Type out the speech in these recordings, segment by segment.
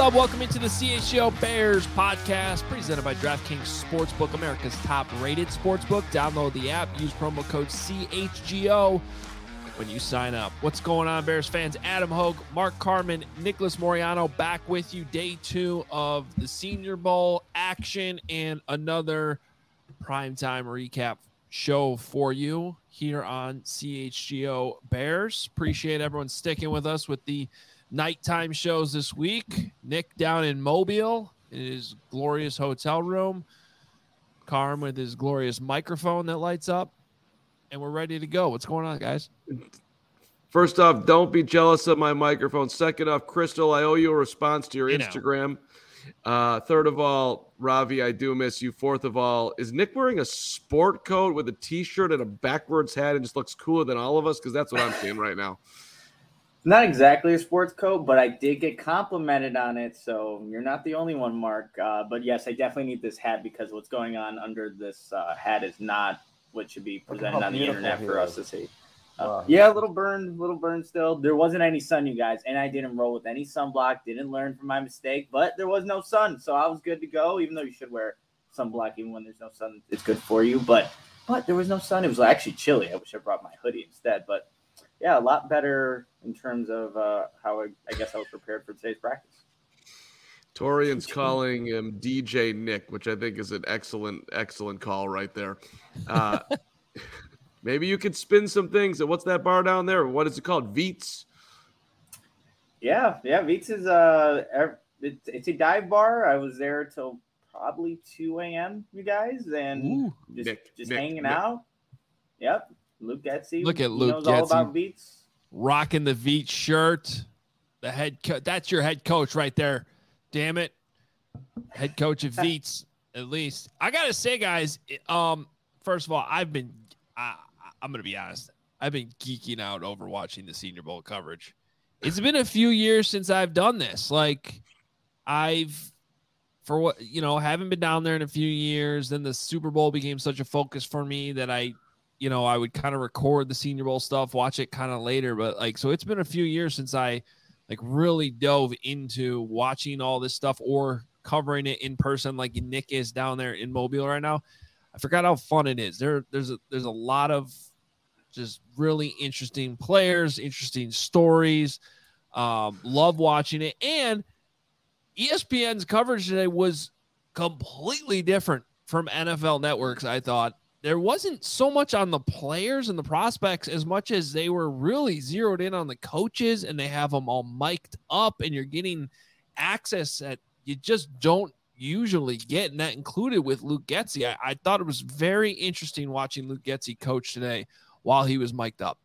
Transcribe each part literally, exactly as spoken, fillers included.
up? Welcome into the C H G O Bears podcast presented by DraftKings Sportsbook, America's top-rated sportsbook. Download the app. Use promo code C H G O when you sign up. What's going on, Bears fans? Adam Hogue, Mark Carman, Nicholas Moriano back with you. Day two of the Senior Bowl action and another primetime recap show for you here on C H G O Bears. Appreciate everyone sticking with us with the nighttime shows this week. Nick down in Mobile in his glorious hotel room. Carm with his glorious microphone that lights up. And we're ready to go. What's going on, guys? First off, don't be jealous of my microphone. Second off, Crystal, I owe you a response to your you Instagram. Uh, third of all, Ravi, I do miss you. Fourth of all, is Nick wearing a sport coat with a T-shirt and a backwards hat and just looks cooler than all of us? Because that's what I'm seeing right now. Not exactly a sports coat, but I did get complimented on it, so you're not the only one, Mark. Uh, but yes, I definitely need this hat because what's going on under this uh, hat is not what should be presented on the internet for us to see. Uh, wow. Yeah, a little burn, little burn still. There wasn't any sun, you guys, and I didn't roll with any sunblock. Didn't learn from my mistake, but there was no sun, so I was good to go. Even though you should wear sunblock even when there's no sun, it's good for you. But but there was no sun. It was actually chilly. I wish I brought my hoodie instead, but. Yeah, a lot better in terms of uh, how I, I guess I was prepared for today's practice. Torian's calling him D J Nick, which I think is an excellent, excellent call right there. Uh, maybe you could spin some things. What's that bar down there? What is it called? Veets? Yeah, yeah. Veets is uh, it's, it's a dive bar. I was there till probably two a.m., you guys, and Ooh, just, Nick, just Nick, hanging Nick. out. Yep. Luke Getsy. Look at he Luke knows Getsy. all about Veets. Rocking the Veets shirt. The head co- That's your head coach right there. Damn it. Head coach of Veets, at least. I got to say, guys, um, first of all, I've been, I, I'm going to be honest, I've been geeking out over watching the Senior Bowl coverage. It's been a few years since I've done this. Like, I've, for what, you know, haven't been down there in a few years. Then the Super Bowl became such a focus for me that I, you know, I would kind of record the Senior Bowl stuff, watch it kind of later. But like, so it's been a few years since I like really dove into watching all this stuff or covering it in person, like Nick is down there in Mobile right now. I forgot how fun it is. There, there's a, there's a lot of just really interesting players, interesting stories. Um, love watching it. And E S P N's coverage today was completely different from N F L Network's, I thought. There wasn't so much on the players and the prospects as much as they were really zeroed in on the coaches, and they have them all mic'd up, and you're getting access that you just don't usually get, and that included with Luke Getsy. I, I thought it was very interesting watching Luke Getsy coach today while he was mic'd up.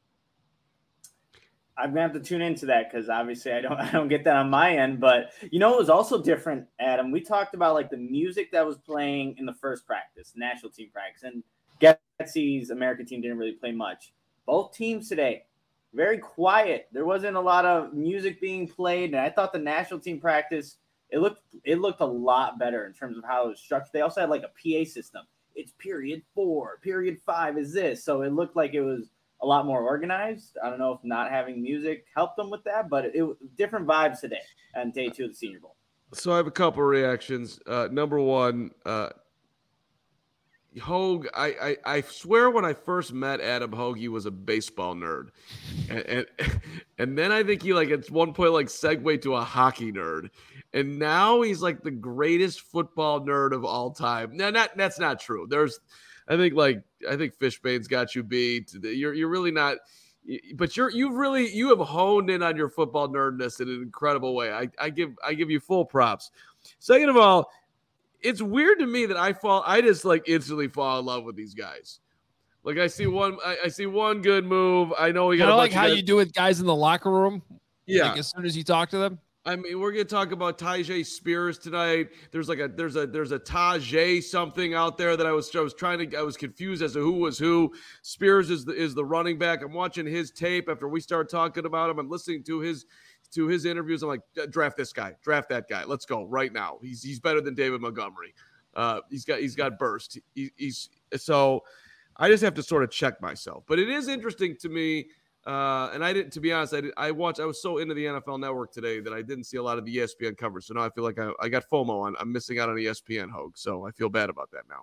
I'm gonna have to tune into that because obviously I don't I don't get that on my end. But you know, it was also different, Adam. We talked about like the music that was playing in the first practice, national team practice, and Getsy's American team didn't really play much. Both teams today, very quiet. There wasn't a lot of music being played, and I thought the national team practice it looked it looked a lot better in terms of how it was structured. They also had like a P A system. It's period four, period five is this, so it looked like it was a lot more organized. I don't know if not having music helped them with that, but it, it different vibes today on day two of the Senior Bowl. So I have a couple of reactions. Uh, number one, uh, Hogue, I, I, I swear when I first met Adam Hogue, he was a baseball nerd. And, and, and then I think he like at one point like segued to a hockey nerd. And now he's like the greatest football nerd of all time. Now, not, that's not true. There's, I think like I think Fishbane's got you beat. You're you're really not, but you're you've really you have honed in on your football nerdness in an incredible way. I, I give I give you full props. Second of all, it's weird to me that I fall I just like instantly fall in love with these guys. Like I see one I, I see one good move. I know we got I a like bunch how of you do with guys in the locker room. Yeah, like as soon as you talk to them. I mean, we're gonna talk about Tyjae Spears tonight. There's like a there's a there's a Tajay something out there that I was I was trying to I was confused as to who was who. Spears is the is the running back. I'm watching his tape after we start talking about him. I'm listening to his to his interviews. I'm like, draft this guy, draft that guy. Let's go right now. He's he's better than David Montgomery. Uh, he's got he's got burst. He, he's so I just have to sort of check myself. But it is interesting to me. Uh, and I didn't, to be honest, I did, I watched, I was so into the N F L Network today that I didn't see a lot of the E S P N coverage. So now I feel like I, I got FOMO on, I'm missing out on E S P N, Hogue. So I feel bad about that now.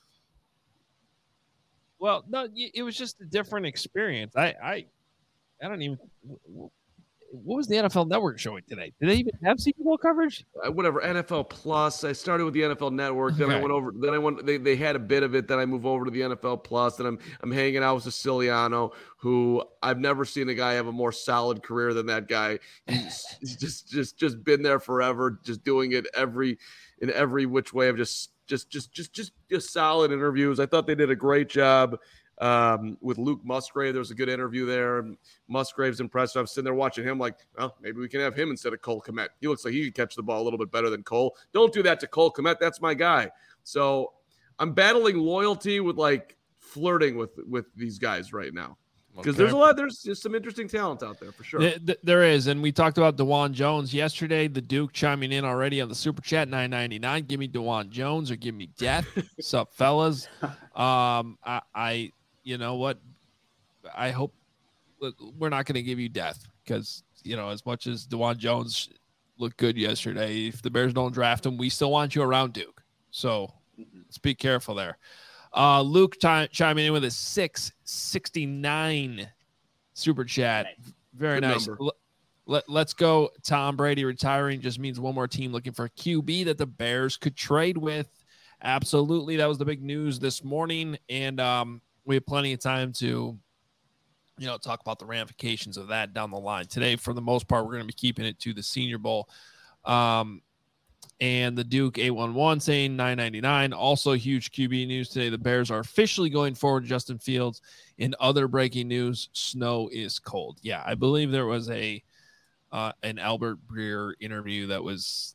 Well, no, it was just a different experience. I, I, I don't even. What was the N F L Network showing today? Did they even have Super Bowl coverage? Uh, whatever, N F L Plus. I started with the N F L Network. Then okay. I went over. Then I went. They, they had a bit of it. Then I moved over to the N F L Plus. Then I'm I'm hanging out with Siciliano, who I've never seen a guy have a more solid career than that guy. He's, he's just just just been there forever, just doing it every in every which way of just just just just just just solid interviews. I thought they did a great job. Um, with Luke Musgrave, there was a good interview there. Musgrave's impressive. I'm sitting there watching him like, well, maybe we can have him instead of Cole Kmet. He looks like he can catch the ball a little bit better than Cole. Don't do that to Cole Kmet. That's my guy. So I'm battling loyalty with like flirting with with these guys right now. Because okay. there's a lot, there's just some interesting talent out there for sure. There is, and we talked about DeJuan Jones yesterday. The Duke chiming in already on the Super Chat, nine ninety-nine. Give me DeJuan Jones or give me death. What's up, fellas? Um, I, I you know what? I hope we're not going to give you death because, you know, as much as DeJuan Jones looked good yesterday, if the Bears don't draft him, we still want you around Duke. So let's be careful there. Uh, Luke ch- chiming in with a six sixty-nine Super Chat. Very good nice. L- let, let's go. Tom Brady retiring just means one more team looking for a Q B that the Bears could trade with. Absolutely. That was the big news this morning. And um, we have plenty of time to, you know, talk about the ramifications of that down the line. Today, for the most part, we're going to be keeping it to the Senior Bowl. Um, and the Duke eight one one saying nine ninety-nine. Also huge Q B news today. The Bears are officially going forward to Justin Fields. In other breaking news, snow is cold. Yeah, I believe there was a uh, an Albert Breer interview that was,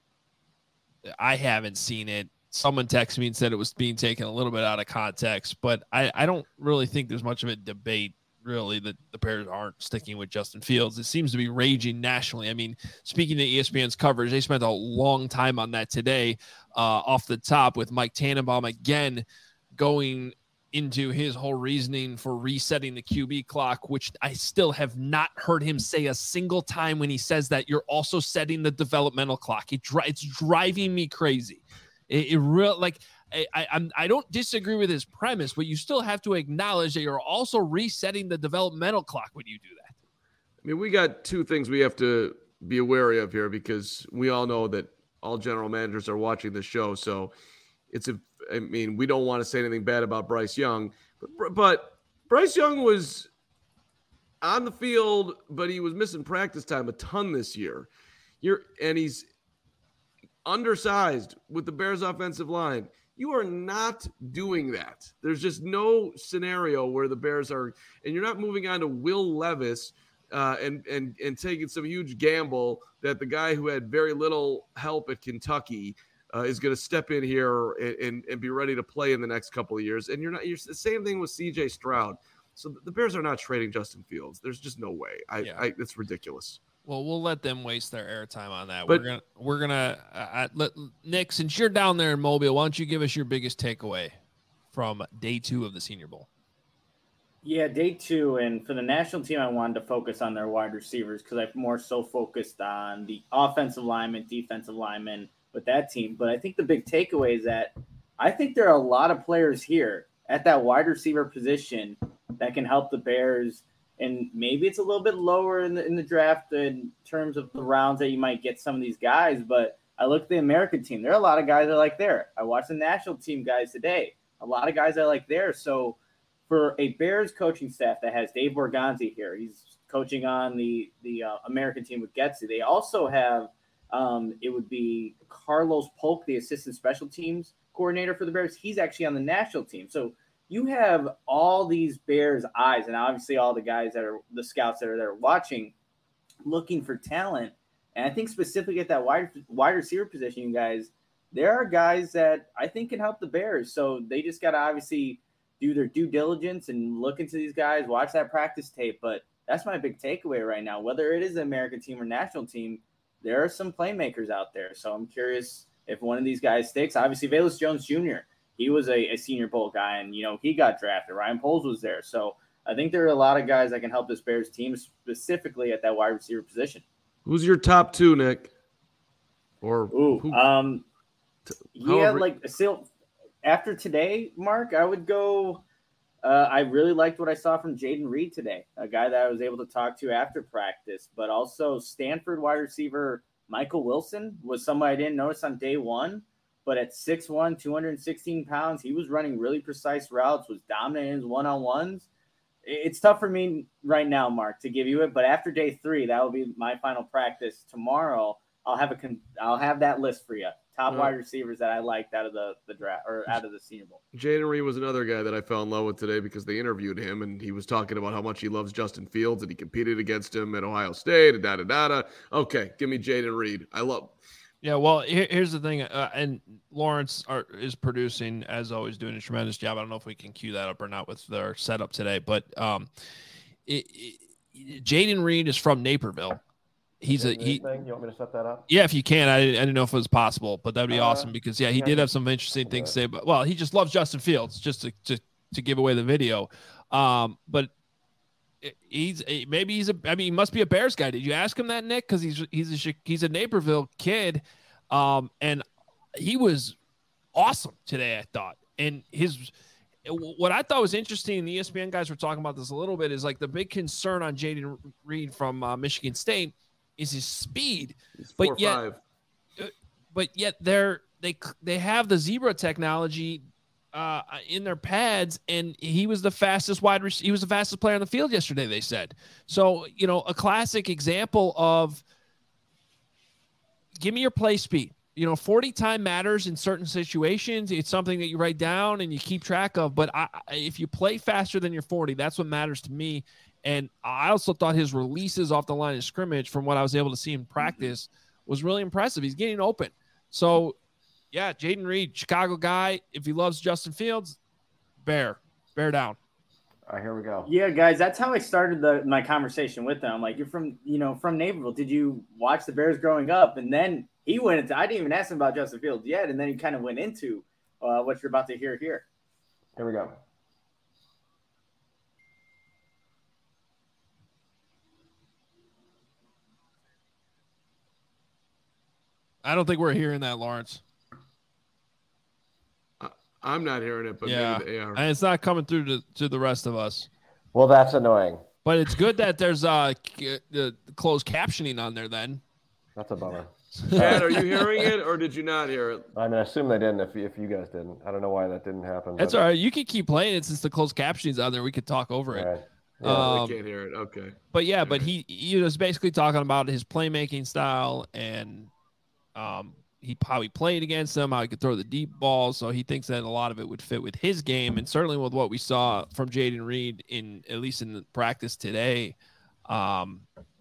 I haven't seen it. Someone texted me and said it was being taken a little bit out of context, but I, I don't really think there's much of a debate, really, that the Bears aren't sticking with Justin Fields. It seems to be raging nationally. I mean, speaking to E S P N's coverage, they spent a long time on that today uh, off the top with Mike Tannenbaum again going into his whole reasoning for resetting the Q B clock, which I still have not heard him say a single time when he says that you're also setting the developmental clock. It dri- it's driving me crazy. It, it real like I, I I'm I don't disagree with his premise, but you still have to acknowledge that you're also resetting the developmental clock when you do that. I mean, we got two things we have to be wary of here because we all know that all general managers are watching the show. So it's a I mean, we don't want to say anything bad about Bryce Young, but but Bryce Young was on the field, but he was missing practice time a ton this year. You're and he's undersized with the Bears offensive line. You are not doing that. There's just no scenario where the Bears are, and you're not moving on to Will Levis uh, and and and taking some huge gamble that the guy who had very little help at Kentucky uh, is going to step in here and, and and be ready to play in the next couple of years. And you're not. You're the same thing with C J Stroud. So the Bears are not trading Justin Fields. There's just no way. I, yeah. I it's ridiculous. Well, we'll let them waste their airtime on that. But, we're gonna, we're gonna, uh, let Nick, since you're down there in Mobile, why don't you give us your biggest takeaway from day two of the Senior Bowl? Yeah, day two, and for the national team, I wanted to focus on their wide receivers because I've more so focused on the offensive lineman, defensive lineman with that team. But I think the big takeaway is that I think there are a lot of players here at that wide receiver position that can help the Bears. And maybe it's a little bit lower in the in the draft in terms of the rounds that you might get some of these guys. But I look at the American team. There are a lot of guys I like there. I watched the national team guys today. A lot of guys I like there. So for a Bears coaching staff that has Dave Borgonzi here, he's coaching on the, the uh, American team with Getsy. They also have, um, it would be Carlos Polk, the assistant special teams coordinator for the Bears. He's actually on the national team. So you have all these Bears eyes and obviously all the guys that are the scouts that are there watching, looking for talent. And I think specifically at that wide, wide receiver position, you guys, there are guys that I think can help the Bears. So they just got to obviously do their due diligence and look into these guys, watch that practice tape. But that's my big takeaway right now. Whether it is the American team or national team, there are some playmakers out there. So I'm curious if one of these guys sticks. Obviously, Velus Jones Junior, he was a, a Senior Bowl guy, and, you know, he got drafted. Ryan Poles was there. So I think there are a lot of guys that can help this Bears team, specifically at that wide receiver position. Who's your top two, Nick? Or Ooh, who? um, yeah, however- like still after today, Mark, I would go. Uh, I really liked what I saw from Jaden Reed today, a guy that I was able to talk to after practice, but also Stanford wide receiver Michael Wilson was somebody I didn't notice on day one, but at six one, two hundred sixteen pounds, he was running really precise routes, was dominant in his one-on-ones. It's tough for me right now, Mark, to give you it, but after day three, that will be my final practice tomorrow. I'll have a con- I'll have that list for you. Top Uh, wide receivers that I liked out of the, the draft or out of the Senior Bowl. Jaden Reed was another guy that I fell in love with today because they interviewed him and he was talking about how much he loves Justin Fields and he competed against him at Ohio State. Da da da da. Okay, give me Jaden Reed. I love. Yeah, well, here, here's the thing, uh, and Lawrence are, is producing, as always, doing a tremendous job. I don't know if we can cue that up or not with their setup today, but um, it, it, Jaden Reed is from Naperville. He's a he. Thing? You want me to set that up? Yeah, if you can, I, I didn't know if it was possible, but that'd be Uh, awesome because yeah, he yeah, did have some interesting things to say. But well, he just loves Justin Fields, just to to, to give away the video. Um, but he's maybe he's a. I mean, he must be a Bears guy. Did you ask him that, Nick? Because he's he's a he's a Naperville kid, um, and he was awesome today, I thought. And his what I thought was interesting, and the E S P N guys were talking about this a little bit, is like the big concern on Jaden Reed from uh, Michigan State is his speed, Four but yet, five. but yet they're they they have the zebra technology uh, in their pads, and he was the fastest wide receiver. He was the fastest player on the field yesterday. They said so. You know, a classic example of give me your play speed. You know, forty time matters in certain situations. It's something that you write down and you keep track of. But I, if you play faster than your forty, that's what matters to me. And I also thought his releases off the line of scrimmage, from what I was able to see in practice, was really impressive. He's getting open. So, yeah, Jaden Reed, Chicago guy. If he loves Justin Fields, bear, bear down. All right, here we go. Yeah, guys, that's how I started the my conversation with them. Like, you're from, you know, from Naperville. Did you watch the Bears growing up? And then he went into, I didn't even ask him about Justin Fields yet. And then he kind of went into uh, what you're about to hear here. Here we go. I don't think we're hearing that, Lawrence. I'm not hearing it, but yeah, maybe they are. And it's not coming through to, to the rest of us. Well, that's annoying. But it's good that there's uh the closed captioning on there then. That's a bummer. Chad, are you hearing it or did you not hear it? I mean, I assume they didn't if, if you guys didn't. I don't know why that didn't happen. That's but, all right. You can keep playing it since the closed captioning's on there. We could talk over it. all right. Yeah, Um, they can't hear it. Okay. But yeah, but he he was basically talking about his playmaking style and um he how he played against them, how he could throw the deep ball. So he thinks that a lot of it would fit with his game, and certainly with what we saw from Jaden Reed in at least in the practice today. Um,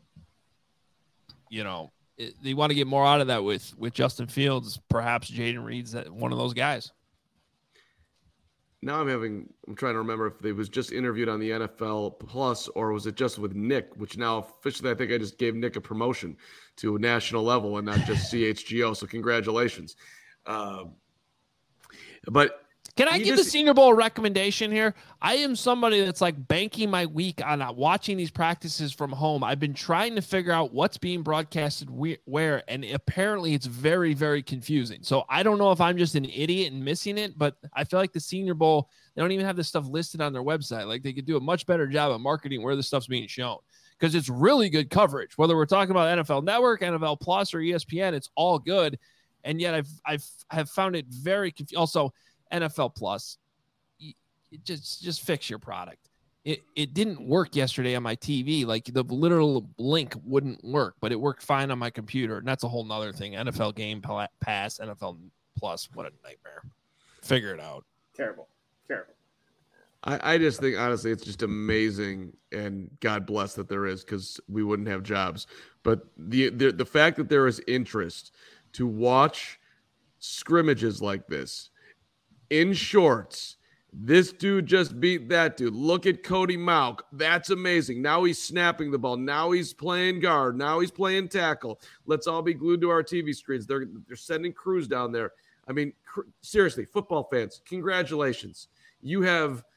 you know, it, they want to get more out of that with with Justin Fields. Perhaps Jaden Reed's that one of those guys. Now I'm having, I'm trying to remember if they was just interviewed on the N F L Plus or was it just with Nick, which now officially I think I just gave Nick a promotion to a national level and not just C H G O. So congratulations. Um, but Can I he give just- the Senior Bowl a recommendation here? I am somebody that's like banking my week on uh, watching these practices from home. I've been trying to figure out what's being broadcasted we- where, and apparently it's very, very confusing. So I don't know if I'm just an idiot and missing it, but I feel like the Senior Bowl, they don't even have this stuff listed on their website. Like they could do a much better job of marketing where the stuff's being shown because it's really good coverage. Whether we're talking about N F L Network, N F L Plus, or E S P N, it's all good. And yet I've I've have found it very confusing. Also, N F L Plus, it just just fix your product. It it didn't work yesterday on my T V. Like the literal link wouldn't work, but it worked fine on my computer. And that's a whole nother thing. N F L Game Pass, N F L Plus, what a nightmare. Figure it out. Terrible. Terrible. I, I just think, honestly, it's just amazing, and God bless that there is, because we wouldn't have jobs. But the, the the fact that there is interest to watch scrimmages like this in shorts. This dude just beat that dude. Look at Cody Mauk. That's amazing. Now he's snapping the ball. Now he's playing guard. Now he's playing tackle. Let's all be glued to our T V screens. They're they're sending crews down there. I mean, cr- seriously, football fans, congratulations. You have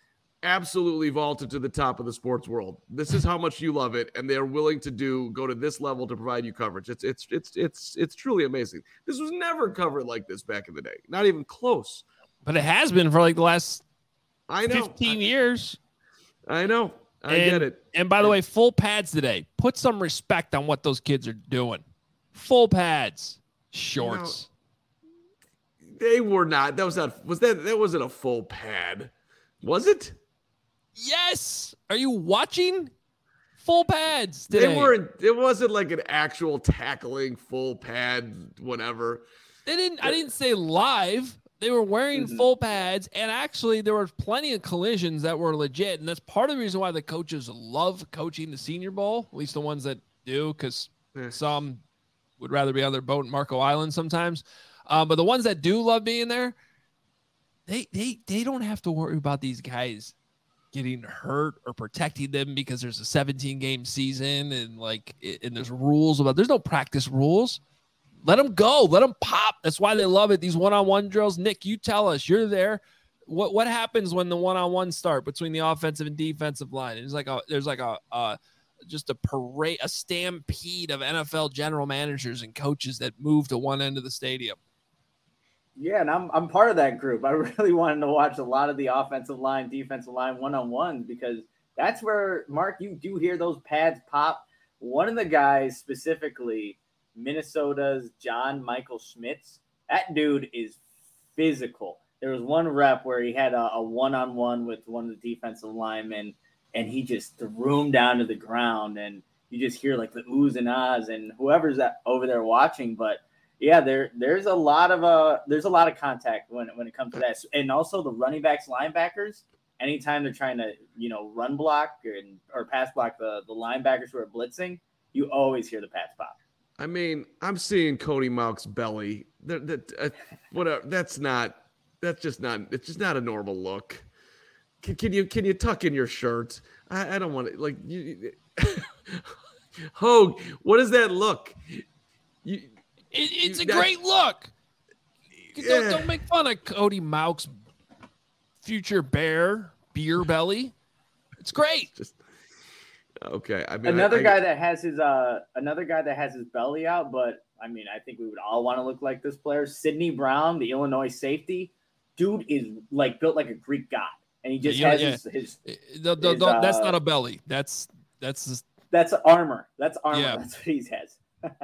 absolutely vaulted to the top of the sports world. This is how much you love it, and they're willing to do go to this level to provide you coverage. It's it's it's it's it's truly amazing. This was never covered like this back in the day, not even close. But it has been for like the last I know fifteen I, years. I know. I and, get it. And by the way, full pads today. Put some respect on what those kids are doing. Full pads, shorts. You know, they were not. That was not. Was that? That wasn't a full pad, was it? Yes. Are you watching? Full pads today. They weren't. It wasn't like an actual tackling full pad, whatever. They didn't. I didn't say live. They were wearing mm-hmm. full pads, and actually there were plenty of collisions that were legit, and that's part of the reason why the coaches love coaching the Senior Bowl, at least the ones that do, because yeah. some would rather be on their boat in Marco Island sometimes. Um, but the ones that do love being there, they they they don't have to worry about these guys getting hurt or protecting them because there's a seventeen game season and like and there's rules about. There's no practice rules. Let them go. Let them pop. That's why they love it. These one-on-one drills. Nick, you tell us. You're there. What what happens when the one-on-one start between the offensive and defensive line? It's like a there's like a uh, just a parade, a stampede of N F L general managers and coaches that move to one end of the stadium. Yeah, and I'm I'm part of that group. I really wanted to watch a lot of the offensive line, defensive line one-on-ones because that's where, Mark, you do hear those pads pop. One of the guys specifically, Minnesota's John Michael Schmitz, that dude is physical. There was one rep where he had a, a one-on-one with one of the defensive linemen, and he just threw him down to the ground, and you just hear like the oohs and ahs and whoever's that over there watching. But yeah, there there's a lot of uh there's a lot of contact when when it comes to that, and also the running backs, linebackers. Anytime they're trying to you know run block or or pass block the the linebackers who are blitzing, you always hear the pads pop. I mean, I'm seeing Cody Mauch's belly. That, that, uh, whatever. That's not. That's just not. It's just not a normal look. Can, can you can you tuck in your shirt? I, I don't want to like you. Hogue, what does that look? You, it, it's you, a great look. Yeah. Don't, don't make fun of Cody Mauch's future bear beer belly. It's great. Just. Okay, I mean another I, I, guy that has his uh another guy that has his belly out, but I mean I think we would all want to look like this player. Sidney Brown, the Illinois safety, dude is like built like a Greek god, and he just yeah, has yeah. his. his, the, the, his the, that's uh, not a belly. That's that's just, that's armor. That's armor. Yeah. That's what he has.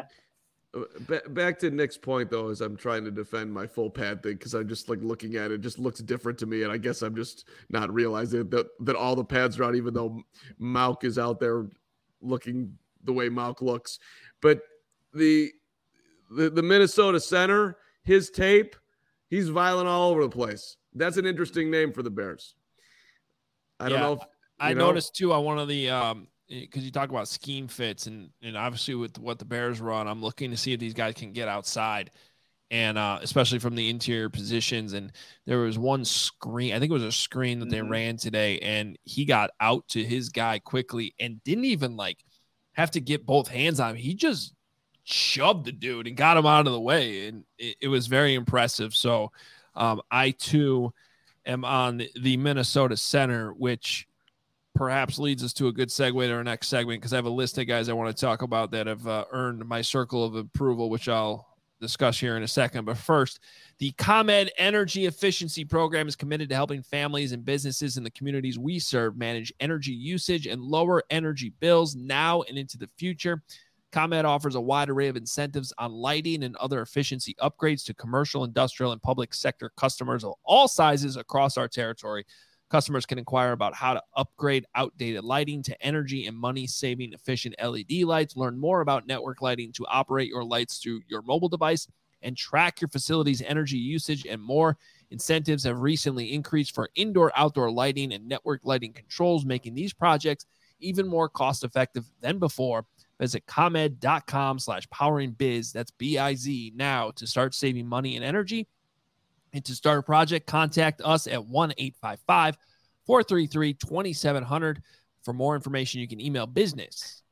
Back to Nick's point, though, as I'm trying to defend my full pad thing, because I'm just like looking at it, it just looks different to me. And I guess I'm just not realizing that, that all the pads are out, even though Mauch is out there looking the way Mauch looks. But the, the, the Minnesota center, his tape, he's violent all over the place. That's an interesting name for the Bears. I don't yeah, know if I know. noticed too on one of the, um, because you talk about scheme fits and, and obviously with what the Bears run, I'm looking to see if these guys can get outside and uh, especially from the interior positions. And there was one screen, I think it was a screen that they mm-hmm. ran today, and he got out to his guy quickly and didn't even like have to get both hands on him. He just shoved the dude and got him out of the way. And it, it was very impressive. So um, I too am on the Minnesota center, which perhaps leads us to a good segue to our next segment, because I have a list of guys I want to talk about that have uh, earned my circle of approval, which I'll discuss here in a second. But first, the ComEd Energy Efficiency Program is committed to helping families and businesses in the communities we serve manage energy usage and lower energy bills now and into the future. ComEd offers a wide array of incentives on lighting and other efficiency upgrades to commercial, industrial, and public sector customers of all sizes across our territory. Customers can inquire about how to upgrade outdated lighting to energy and money-saving efficient L E D lights. Learn more about network lighting to operate your lights through your mobile device and track your facility's energy usage and more. Incentives have recently increased for indoor-outdoor lighting and network lighting controls, making these projects even more cost-effective than before. Visit ComEd.com slash powering biz. That's B I Z now to start saving money and energy. And to start a project, contact us at one eight five five, four three three, two seven zero zero. For more information, you can email business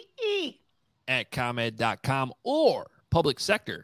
at ComEd dot com or public sector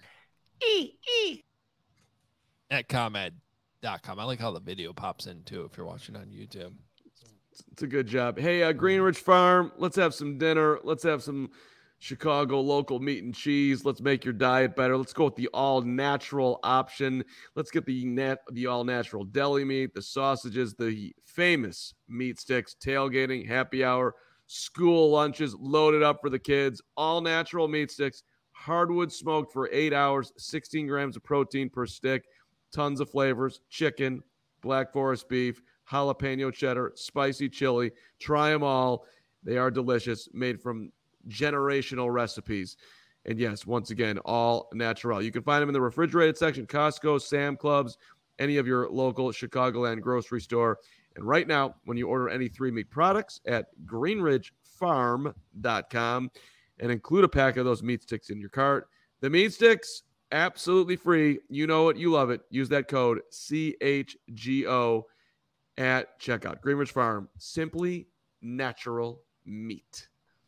at ComEd dot com. I like how the video pops in, too, if you're watching on YouTube. It's It's a good job. Hey, uh, Greenridge Farm, let's have some dinner. Let's have some Chicago local meat and cheese. Let's make your diet better. Let's go with the all-natural option. Let's get the nat- the all-natural deli meat, the sausages, the famous meat sticks, tailgating, happy hour, school lunches, loaded up for the kids. All-natural meat sticks, hardwood smoked for eight hours, sixteen grams of protein per stick, tons of flavors, chicken, Black Forest beef, jalapeno cheddar, spicy chili. Try them all. They are delicious, made from generational recipes. And yes, once again, all natural. You can find them in the refrigerated section, Costco, Sam Clubs, any of your local Chicagoland grocery store. And right now, when you order any three meat products at greenridge farm dot com and include a pack of those meat sticks in your cart, the meat sticks, absolutely free. You know it. You love it. Use that code C H G O at checkout. Greenridge Farm, simply natural meat.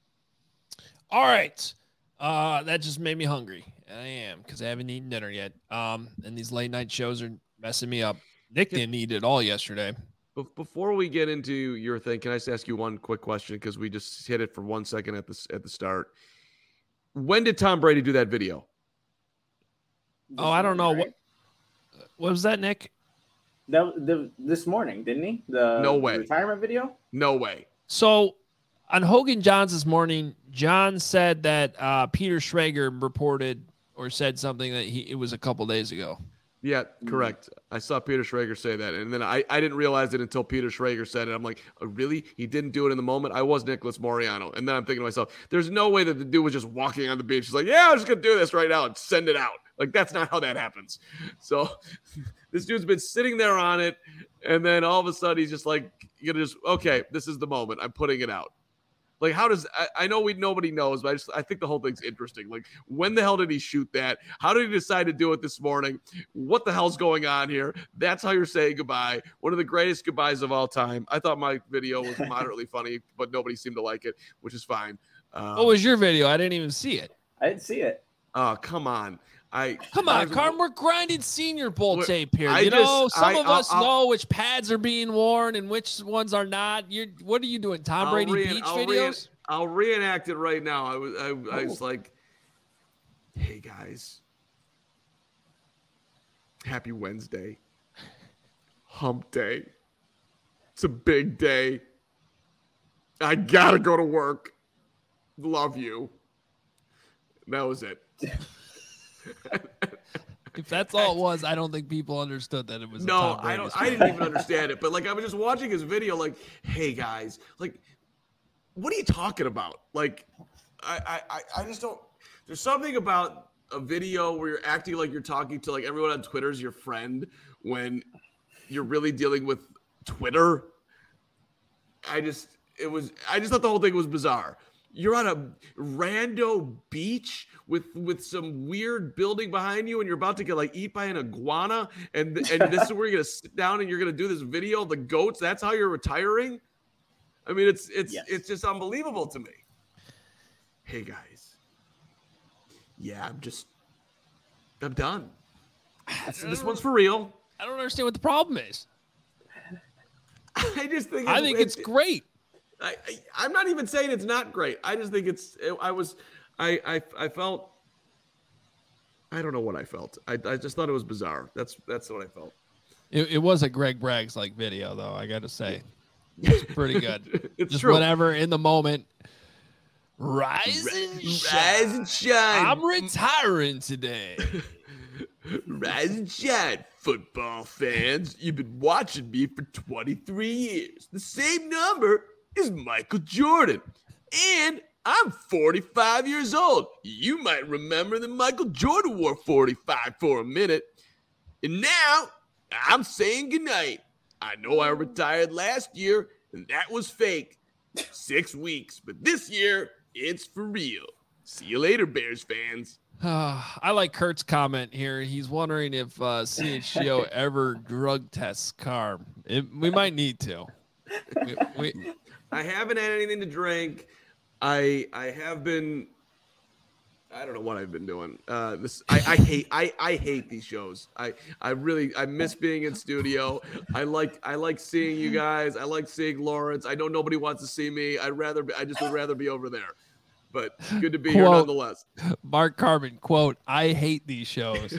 All right. Uh, that just made me hungry. And I am, because I haven't eaten dinner yet. Um, and these late night shows are messing me up. Nick didn't eat at all yesterday. Before we get into your thing, can I just ask you one quick question? Because we just hit it for one second at the, at the start. When did Tom Brady do that video? Oh, I don't know. What, what was that, Nick? That, the, this morning, didn't he? The, no way. The retirement video? No way. So on Hogan Johns this morning, John said that uh, Peter Schrager reported or said something that he it was a couple days ago. Yeah, correct. I saw Peter Schrager say that, and then I, I didn't realize it until Peter Schrager said it. I'm like, oh, really? He didn't do it in the moment? I was Nicholas Moriano. And then I'm thinking to myself, there's no way that the dude was just walking on the beach. He's like, yeah, I'm just going to do this right now and send it out. Like, that's not how that happens. So this dude's been sitting there on it, and then all of a sudden he's just like, you're going to just, okay, this is the moment. I'm putting it out. Like, how does I, I know we nobody knows, but I just I think the whole thing's interesting. Like, when the hell did he shoot that? How did he decide to do it this morning? What the hell's going on here? That's how you're saying goodbye. One of the greatest goodbyes of all time. I thought my video was moderately funny, but nobody seemed to like it, which is fine. Um, what was your video? I didn't even see it. I didn't see it. Oh, come on. I Come on, I, Carm, we're grinding Senior Bowl tape here. I You know, just- some I- of I'll- us I'll- know which pads are being worn and which ones are not. You're, what are you doing, Tom I'll Brady re- beach I'll re- videos? I'll reenact it right now. I was I, I was Oh. like, hey guys, happy Wednesday, hump day. It's a big day. I gotta go to work. Love you. That was it. If that's all it was, I don't think people understood that it was. No, a Tom I Brady don't. story. I didn't even understand it. But like, I was just watching his video. Like, hey guys, like, what are you talking about? Like, I, I, I just don't. There's something about a video where you're acting like you're talking to like everyone on Twitter is your friend when you're really dealing with Twitter. I just, it was. I just thought the whole thing was bizarre. You're on a rando beach with with some weird building behind you, and you're about to get like eat by an iguana, and and this is where you're gonna sit down and you're gonna do this video of the goats. That's how you're retiring. I mean, it's it's Yes. it's just unbelievable to me. Hey guys, yeah, I'm just I'm done. This, this one's for real. I don't understand what the problem is. I just think it's, I think it's great. I, I I'm not even saying it's not great. I just think it's. It, I was, I, I I felt. I don't know what I felt. I, I just thought it was bizarre. That's that's what I felt. It, it was a Greg Braggs like video, though. I got to say, it's pretty good. It's Just true. whatever in the moment. Rise and shine. Rise and shine. I'm retiring today. Rise and shine, football fans. You've been watching me for twenty-three years. The same number is Michael Jordan. And I'm forty-five years old. You might remember that Michael Jordan wore forty-five for a minute. And now I'm saying goodnight. I know I retired last year, and that was fake. Six weeks. But this year, it's for real. See you later, Bears fans. I like Kurt's comment here. He's wondering if uh, C H G O ever drug tests Carm. It, we might need to. We, we, I haven't had anything to drink. I I have been I don't know what I've been doing. Uh, this I, I hate I, I hate these shows. I, I really I miss being in studio. I like I like seeing you guys. I like seeing Lawrence. I know nobody wants to see me. I'd rather be, I just would rather be over there. But good to be Quote, here nonetheless. Mark Carbon, quote, I hate these shows.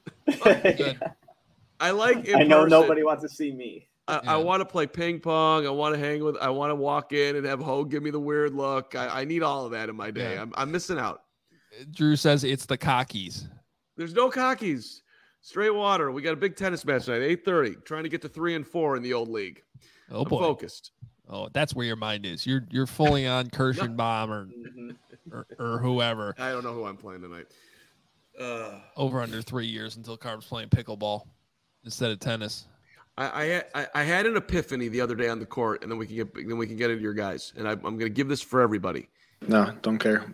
I like in I know person. nobody wants to see me. I, Yeah. I want to play ping pong. I want to hang with. I want to walk in and have Hogue give me the weird look. I, I need all of that in my day. Yeah. I'm, I'm missing out. Drew says it's the cockies. There's no cockies. Straight water. We got a big tennis match tonight, eight thirty. Trying to get to three and four in the old league. Oh I'm boy. focused. Oh, that's where your mind is. You're you're fully on Kirschenbaum or, Mm-hmm. or or whoever. I don't know who I'm playing tonight. Uh, Over under three years until Carb's playing pickleball instead of tennis. I, I had I, I had an epiphany the other day on the court, and then we can get then we can get into your guys. And I, I'm going to give this for everybody. No, don't care.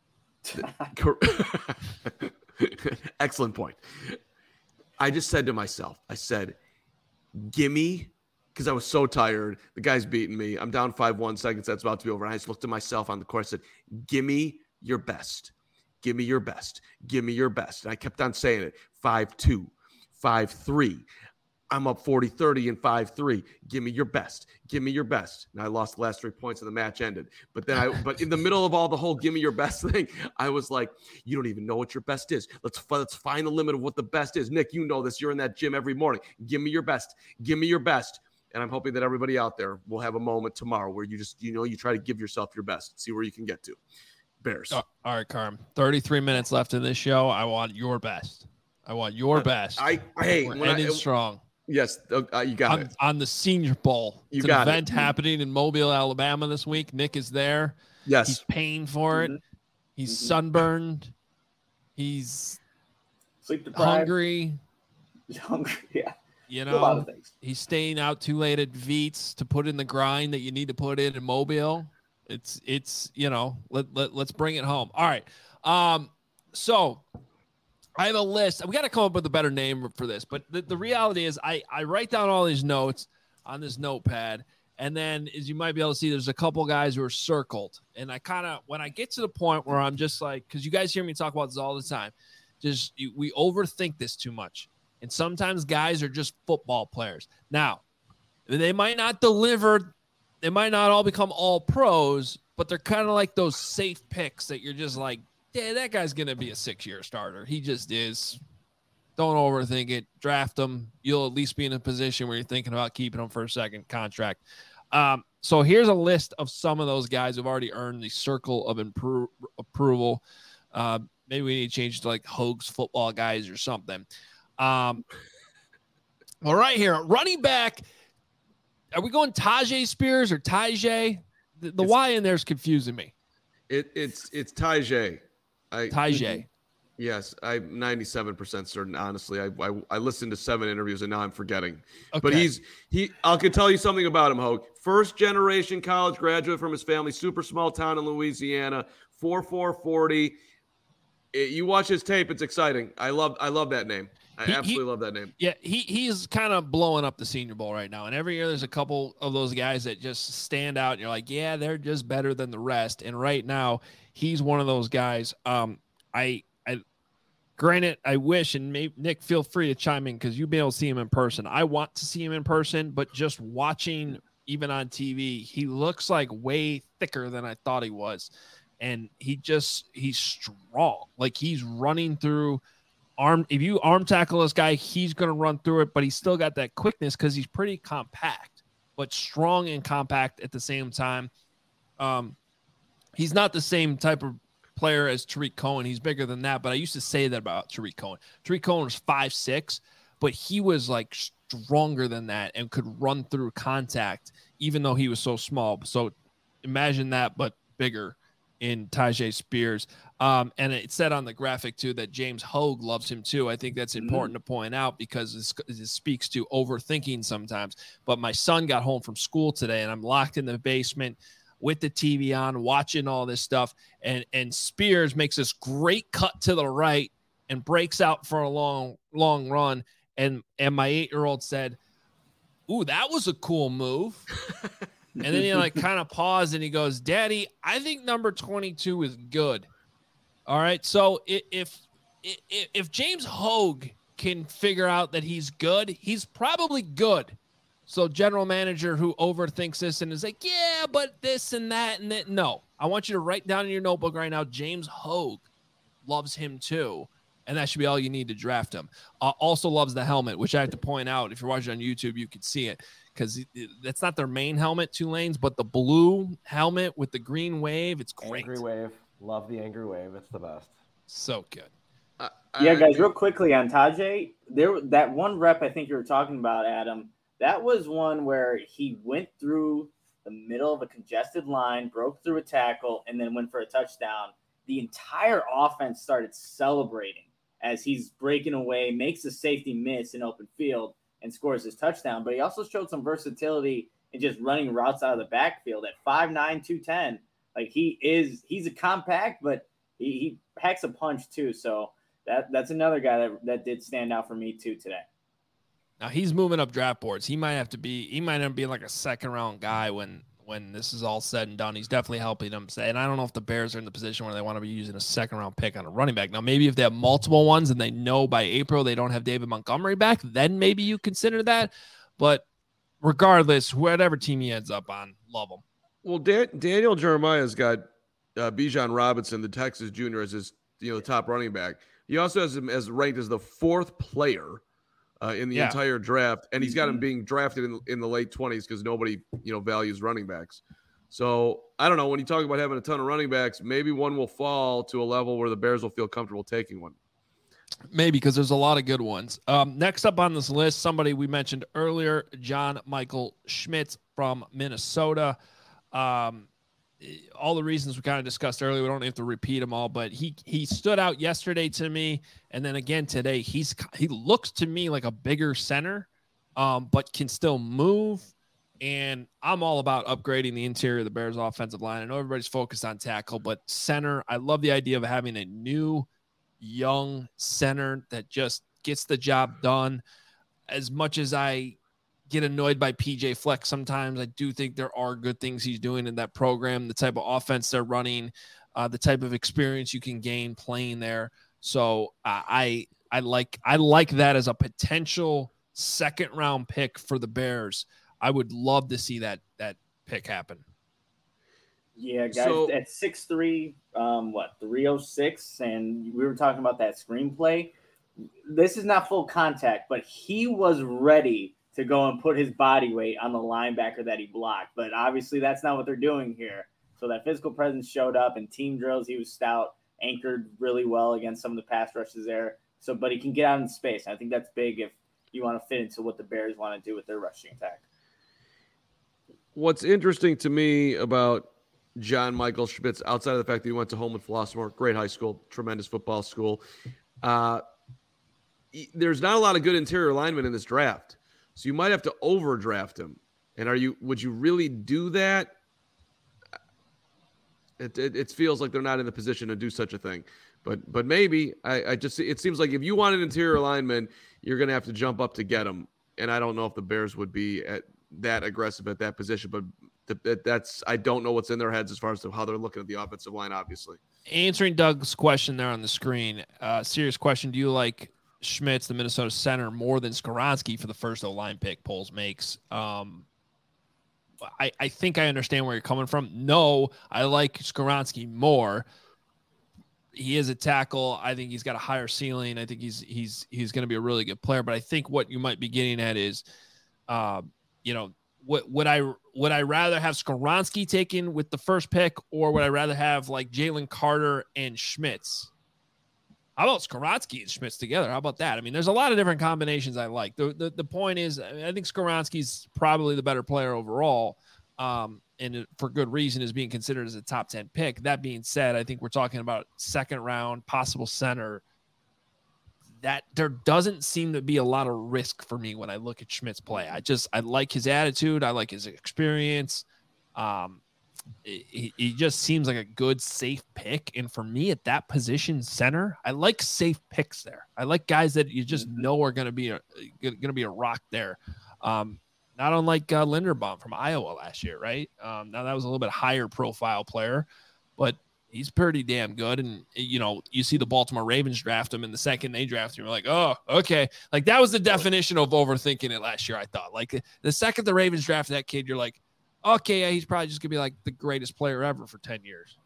Excellent point. I just said to myself, I said, gimme, because I was so tired. The guy's beating me. I'm down five one, second set's about to be over. And I just looked at myself on the court. I said, gimme your best. Give me your best. Give me your best. And I kept on saying it. five two, five three. I'm up forty thirty in five three. Give me your best. Give me your best. And I lost the last three points and the match ended. But then I, but in the middle of all the whole give me your best thing, I was like, you don't even know what your best is. Let's, let's find the limit of what the best is. Nick, you know this. You're in that gym every morning. Give me your best. Give me your best. And I'm hoping that everybody out there will have a moment tomorrow where you just, you know, you try to give yourself your best. See where you can get to. Bears. Oh, all right, Carm. thirty-three minutes left in this show. I want your best. I want your best. I, I hey, We're when ending I, strong. Yes, uh, you got on, it. on the Senior Bowl. You it's got an event it. happening in Mobile, Alabama this week. Nick is there. Yes. He's paying for it. Mhm. He's Mhm. sunburned. He's Sleep deprived. hungry. Hungry. Yeah. You A lot know, of things. he's staying out too late at Veets to put in the grind that you need to put in in Mobile. It's, it's, you know, let, let, let's bring it home. All right. Um, so I have a list. We got to come up with a better name for this, but the, the reality is I, I write down all these notes on this notepad. And then as you might be able to see, there's a couple guys who are circled. And I kind of, when I get to the point where I'm just like, cause you guys hear me talk about this all the time, just you, we overthink this too much. And sometimes guys are just football players. Now, they might not deliver. They might not all become all pros, but they're kind of like those safe picks that you're just like, yeah, that guy's going to be a six-year starter. He just is. Don't overthink it. Draft him. You'll at least be in a position where you're thinking about keeping him for a second contract. Um, so here's a list of some of those guys who've already earned the circle of impro- approval. Uh, maybe we need to change it to like Hogue's football guys or something. Um, well, right here, running back. Are we going Tajay Spears or Tajay? The, the Y in there is confusing me. It, it's it's Tajay. I, Tajay. Yes, I'm ninety-seven percent certain. Honestly, I, I I listened to seven interviews and now I'm forgetting. Okay. But he's he. I can tell you something about him, Hogue. First generation college graduate from his family, super small town in Louisiana. four four forty. It, you watch his tape, it's exciting. I love I love that name. I He- absolutely he- love that name. Yeah, he he's kind of blowing up the Senior Bowl right now. And every year there's a couple of those guys that just stand out and you're like, yeah, they're just better than the rest. And right now, he's one of those guys. Um, I I granted, I wish, and maybe Nick, feel free to chime in because you'll be able to see him in person. I want to see him in person, but just watching even on T V, he looks like way thicker than I thought he was. And he just he's strong. Like he's running through arm. If you arm tackle this guy, he's going to run through it, but he's still got that quickness because he's pretty compact, but strong and compact at the same time. Um, he's not the same type of player as Tariq Cohen. He's bigger than that, but I used to say that about Tariq Cohen. Tariq Cohen was five six, but he was like stronger than that and could run through contact, even though he was so small. So imagine that, but bigger in Tajay Spears. Um, and it said on the graphic too that James Hogue loves him too. I think that's important mm. to point out because this, this speaks to overthinking sometimes. But my son got home from school today and I'm locked in the basement with the T V on, watching all this stuff. And, and Spears makes this great cut to the right and breaks out for a long, long run. And, and my eight-year-old said, ooh, that was a cool move. And then he like kind of paused and he goes, Daddy, I think number twenty-two is good. All right. So if if if James Hogue can figure out that he's good, he's probably good. So general manager who overthinks this and is like, yeah, but this and that and that. No, I want you to write down in your notebook right now, James Hogue loves him too. And that should be all you need to draft him. Uh, also loves the helmet, which I have to point out. If you're watching on YouTube, you can see it because that's not their main helmet, Tulane's, but the blue helmet with the green wave. It's great. Angry wave. Love the angry wave. It's the best. So good. Uh, Yeah, I- guys, real quickly on Tajay, there that one rep I think you were talking about, Adam, that was one where he went through the middle of a congested line, broke through a tackle, and then went for a touchdown. The entire offense started celebrating as he's breaking away, makes a safety miss in open field, and scores his touchdown. But he also showed some versatility in just running routes out of the backfield at five nine, two ten. Like he is, he's a compact, but he, he packs a punch too. So that that's another guy that, that did stand out for me too today. Now he's moving up draft boards. He might have to be, he might end up being like a second round guy when, when this is all said and done. He's definitely helping them say, and I don't know if the Bears are in the position where they want to be using a second round pick on a running back. Now, maybe if they have multiple ones and they know by April they don't have David Montgomery back, then maybe you consider that. But regardless, whatever team he ends up on, love him. Well, Dan- Daniel Jeremiah's got uh, Bijan Robinson, the Texas junior, as his you know top running back. He also has him as ranked as the fourth player uh, in the Yeah. entire draft, and he's got him being drafted in, in the late twenties because nobody you know values running backs. So I don't know. When you talk about having a ton of running backs, maybe one will fall to a level where the Bears will feel comfortable taking one. Maybe because there's a lot of good ones. Um, next up on this list, somebody we mentioned earlier, John Michael Schmitz from Minnesota. Um, all the reasons we kind of discussed earlier, we don't have to repeat them all, but he he stood out yesterday to me, and then again today. He's he looks to me like a bigger center, um, but can still move. And I'm all about upgrading the interior of the Bears offensive line. I know everybody's focused on tackle, but center, I love the idea of having a new young center that just gets the job done. As much as I get annoyed by P J Fleck sometimes, I do think there are good things he's doing in that program, the type of offense they're running, uh, the type of experience you can gain playing there. So uh, I I like I like that as a potential second round pick for the Bears. I would love to see that that pick happen. Yeah, guys, So- at six three, um, what, three oh six, and we were talking about that screenplay. This is not full contact, but he was ready to go and put his body weight on the linebacker that he blocked. But obviously that's not what they're doing here. So that physical presence showed up in team drills. He was stout, anchored really well against some of the pass rushes there. So, but he can get out in space. I think that's big if you want to fit into what the Bears want to do with their rushing attack. What's interesting to me about John Michael Schmitz, outside of the fact that he went to Homewood Flossmoor, great high school, tremendous football school, uh, there's not a lot of good interior linemen in this draft. So you might have to overdraft him. And are you? Would you really do that? It, it, it feels like they're not in the position to do such a thing. But but maybe. I, I just it seems like if you want an interior lineman, you're going to have to jump up to get him. And I don't know if the Bears would be at that aggressive at that position. But th- that's I don't know what's in their heads as far as to how they're looking at the offensive line, obviously. Answering Doug's question there on the screen, uh, serious question. Do you like Schmitz, the Minnesota center, more than Skoronski for the first O-line pick? Polls makes. Um, I, I think I understand where you're coming from. No, I like Skoronski more. He is a tackle. I think he's got a higher ceiling. I think he's he's he's going to be a really good player. But I think what you might be getting at is, uh, you know, what would I would I rather have Skoronski taken with the first pick, or would I rather have like Jalen Carter and Schmitz? How about Skoronski and Schmitz together? How about that? I mean, there's a lot of different combinations I like. The the, the point is, I, mean, I think Skoronski's probably the better player overall, um, and it, for good reason, is being considered as a top ten pick. That being said, I think we're talking about second round, possible center. That there doesn't seem to be a lot of risk for me when I look at Schmitz play. I just I like his attitude. I like his experience. Um, He, he just seems like a good, safe pick. And for me at that position, center, I like safe picks there. I like guys that you just know are going to be a going to be a rock there. Um, not unlike uh, Linderbaum from Iowa last year, right? Um, now that was a little bit higher profile player, but he's pretty damn good. And, you know, you see the Baltimore Ravens draft him, and the second they draft him, you're like, oh, okay. Like, that was the definition of overthinking it last year, I thought. Like, the second the Ravens drafted that kid, you're like, okay, yeah, he's probably just going to be like the greatest player ever for ten years.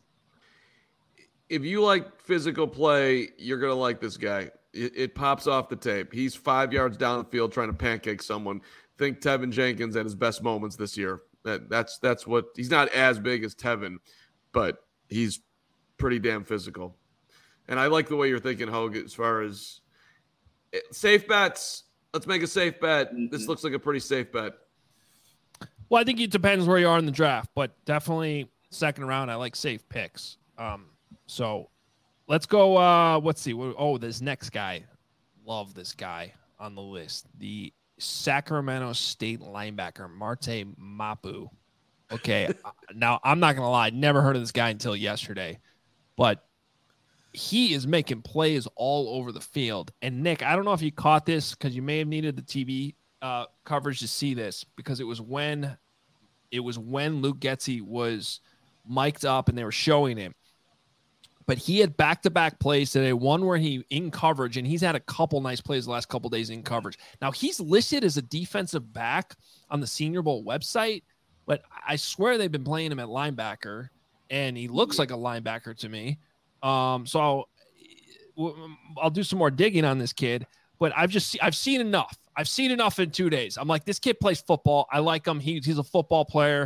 If you like physical play, you're going to like this guy. It, it pops off the tape. He's five yards down the field trying to pancake someone. Think Tevin Jenkins at his best moments this year. That, that's that's what – he's not as big as Tevin, but he's pretty damn physical. And I like the way you're thinking, Hogue, as far as safe bets. Let's make a safe bet. Mm-hmm. This looks like a pretty safe bet. Well, I think it depends where you are in the draft, but definitely second round, I like safe picks. Um, so let's go. Uh, let's see. Oh, this next guy. Love this guy on the list. The Sacramento State linebacker, Marte Mapu. Okay. Now, I'm not going to lie. Never heard of this guy until yesterday, but he is making plays all over the field. And Nick, I don't know if you caught this because you may have needed the T V uh, coverage to see this, because it was when it was when Luke Getsy was mic'd up and they were showing him. But he had back-to-back plays today, one where he in coverage, and he's had a couple nice plays the last couple days in coverage. Now, he's listed as a defensive back on the Senior Bowl website, but I swear they've been playing him at linebacker, and he looks like a linebacker to me. Um, so I'll, I'll do some more digging on this kid, but I've just I've seen enough. I've seen enough in two days. I'm like, this kid plays football. I like him. He, he's a football player.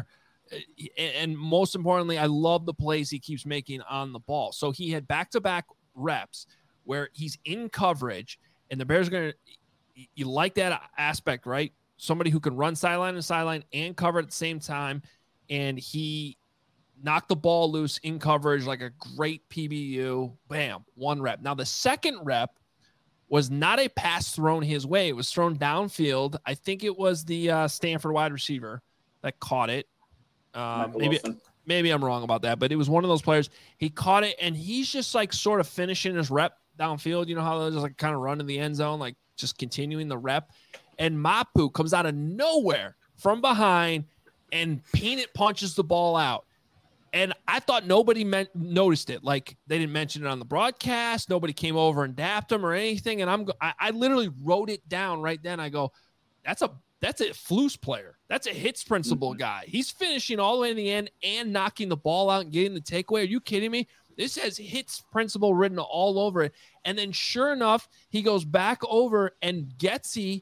And most importantly, I love the plays he keeps making on the ball. So he had back-to-back reps where he's in coverage, and the Bears are going to – you like that aspect, right? Somebody who can run sideline to sideline and cover at the same time, and he knocked the ball loose in coverage like a great P B U. Bam, one rep. Now, the second rep was not a pass thrown his way. It was thrown downfield. I think it was the uh, Stanford wide receiver that caught it. Um, maybe maybe I'm wrong about that, but it was one of those players. He caught it, and he's just like sort of finishing his rep downfield. You know how they're just like kind of run in the end zone, like just continuing the rep. And Mapu comes out of nowhere from behind and peanut punches the ball out. And I thought nobody meant, noticed it. Like, they didn't mention it on the broadcast. Nobody came over and dapped him or anything. And I'm I, I literally wrote it down right then. I go, that's a That's a Flus player. That's a hits principle guy. He's finishing all the way in the end and knocking the ball out and getting the takeaway. Are you kidding me? This has hits principle written all over it. And then sure enough, he goes back over, and Getsy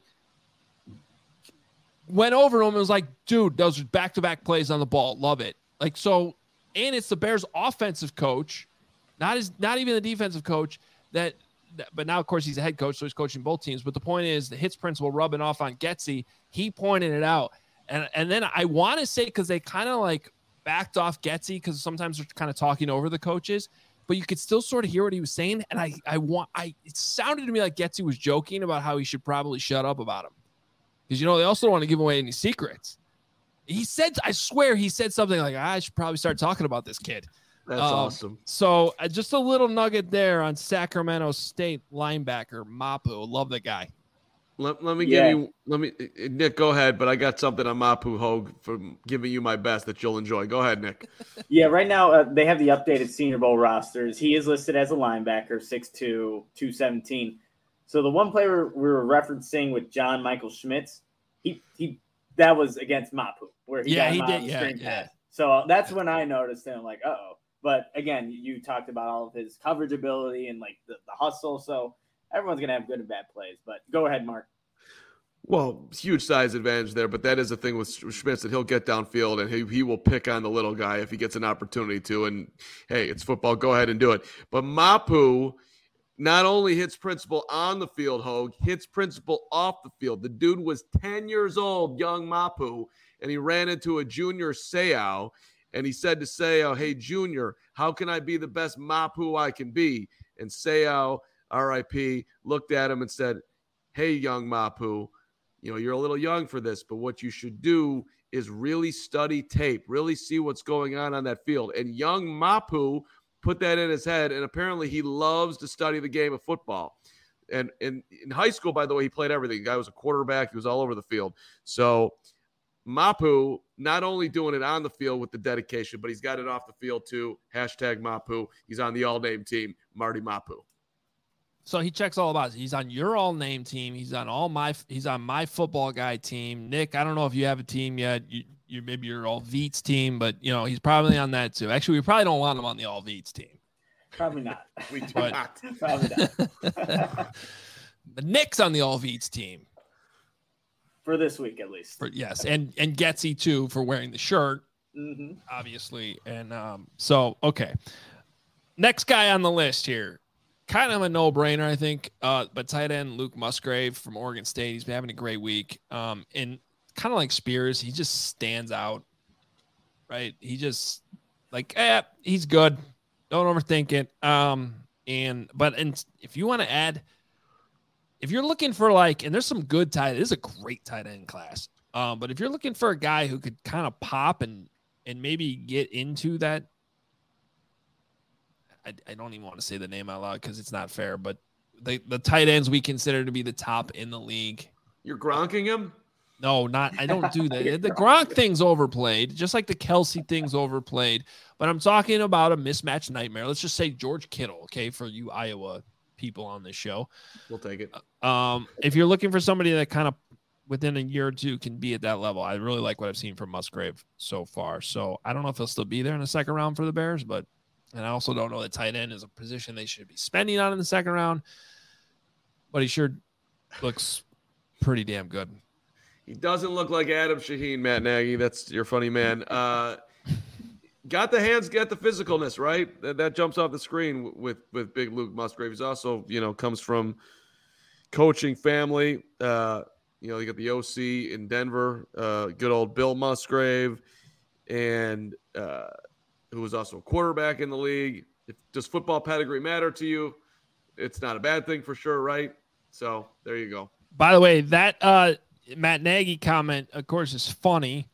went over to him and was like, dude, those are back-to-back plays on the ball. Love it. Like, so, and it's the Bears offensive coach, not his, not even the defensive coach that, but now, of course, he's a head coach, so he's coaching both teams. But the point is, the hits principle rubbing off on Getsy. He pointed it out. And and then I want to say, because they kind of like backed off Getsy, because sometimes they're kind of talking over the coaches, but you could still sort of hear what he was saying. And I, I want, I, it sounded to me like Getsy was joking about how he should probably shut up about him. Because, you know, they also don't want to give away any secrets. He said, I swear he said something like, I should probably start talking about this kid. That's um, awesome. So uh, just a little nugget there on Sacramento State linebacker Mapu. Love the guy. Let, let me Yeah. give you, let me, Nick, go ahead. But I got something on Mapu, Hogue, for giving you my best that you'll enjoy. Go ahead, Nick. Yeah, right now uh, they have the updated Senior Bowl rosters. He is listed as a linebacker, six two, two seventeen. So the one player we were referencing with John Michael Schmitz, he he that was against Mapu, where he Yeah, got he him out did, of the yeah, screen yeah. pass. So that's when I noticed him, like, uh-oh. But again, you talked about all of his coverage ability and like the, the hustle. So everyone's going to have good and bad plays. But go ahead, Mark. Well, huge size advantage there, but that is the thing with Schmitz, that he'll get downfield and he, he will pick on the little guy if he gets an opportunity to. And hey, it's football. Go ahead and do it. But Mapu not only hits principle on the field, Hogue, hits principle off the field. The dude was ten years old, young Mapu, and he ran into a junior Seau. And he said to Seau, hey, Junior, how can I be the best Mapu I can be? And Seau, R I P, looked at him and said, hey, young Mapu, you know, you're a little young for this, but what you should do is really study tape, really see what's going on on that field. And young Mapu put that in his head, and apparently he loves to study the game of football. And, and in high school, by the way, he played everything. The guy was a quarterback. He was all over the field. So Mapu not only doing it on the field with the dedication, but he's got it off the field too. Hashtag Mapu. He's on the all-name team, Marty Mapu. So he checks all about it. He's on your all-name team. He's on all my. He's on my football guy team. Nick, I don't know if you have a team yet. You, you maybe your all Veets team, but you know he's probably on that too. Actually, we probably don't want him on the all Veets team. Probably not. We do But- not. Probably not. But Nick's on the all Veets team. For this week, at least. For, yes, and and Getsy too for wearing the shirt, Mm-hmm. obviously. And um, so okay, next guy on the list here, kind of a no-brainer, I think. Uh, but tight end Luke Musgrave from Oregon State. He's been having a great week. Um, and kind of like Spears, he just stands out. Right? He just like, eh, he's good. Don't overthink it. Um, and but and if you want to add. If you're looking for like, and there's some good tight, this is a great tight end class. Um, but if you're looking for a guy who could kind of pop and and maybe get into that, I, I don't even want to say the name out loud because it's not fair. But the the tight ends we consider to be the top in the league. You're gronking him? No, not I don't do that. The Gronk thing's overplayed, just like the Kelsey thing's overplayed. But I'm talking about a mismatch nightmare. Let's just say George Kittle, okay, for you Iowa people on this show. We'll take it. Um, if you're looking for somebody that kind of within a year or two can be at that level, I really like what I've seen from Musgrave so far. So I don't know if he'll still be there in the second round for the Bears, but and I also don't know that tight end is a position they should be spending on in the second round. But he sure looks pretty damn good. He doesn't look like Adam Shaheen, Matt Nagy. That's your funny man. Uh, got the hands, got the physicalness, right? That, that jumps off the screen with with big Luke Musgrave. He's also, you know, comes from coaching family. Uh, you know, you got the O C in Denver, uh, good old Bill Musgrave, and uh, who was also a quarterback in the league. If, does football pedigree matter to you? It's not a bad thing for sure, right? So there you go. By the way, that uh, Matt Nagy comment, of course, is funny,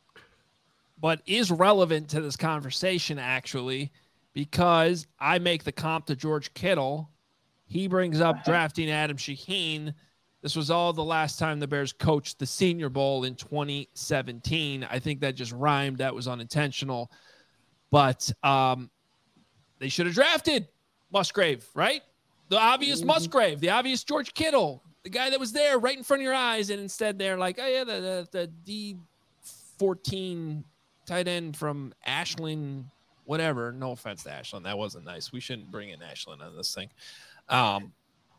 but is relevant to this conversation, actually, because I make the comp to George Kittle. He brings up drafting Adam Shaheen. This was all the last time the Bears coached the Senior Bowl in twenty seventeen. I think that just rhymed. That was unintentional. But um, they should have drafted Musgrave, right? The obvious Mm-hmm. Musgrave, the obvious George Kittle, the guy that was there right in front of your eyes. And instead they're like, oh, yeah, the, the, the D fourteen tight end from Ashland, whatever. No offense to Ashland. That wasn't nice. We shouldn't bring in Ashland on this thing. Um,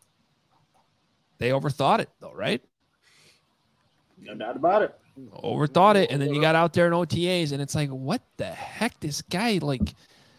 they overthought it, though, right? No doubt about it. Overthought it. And then you got out there in O T As, and it's like, what the heck? This guy, like,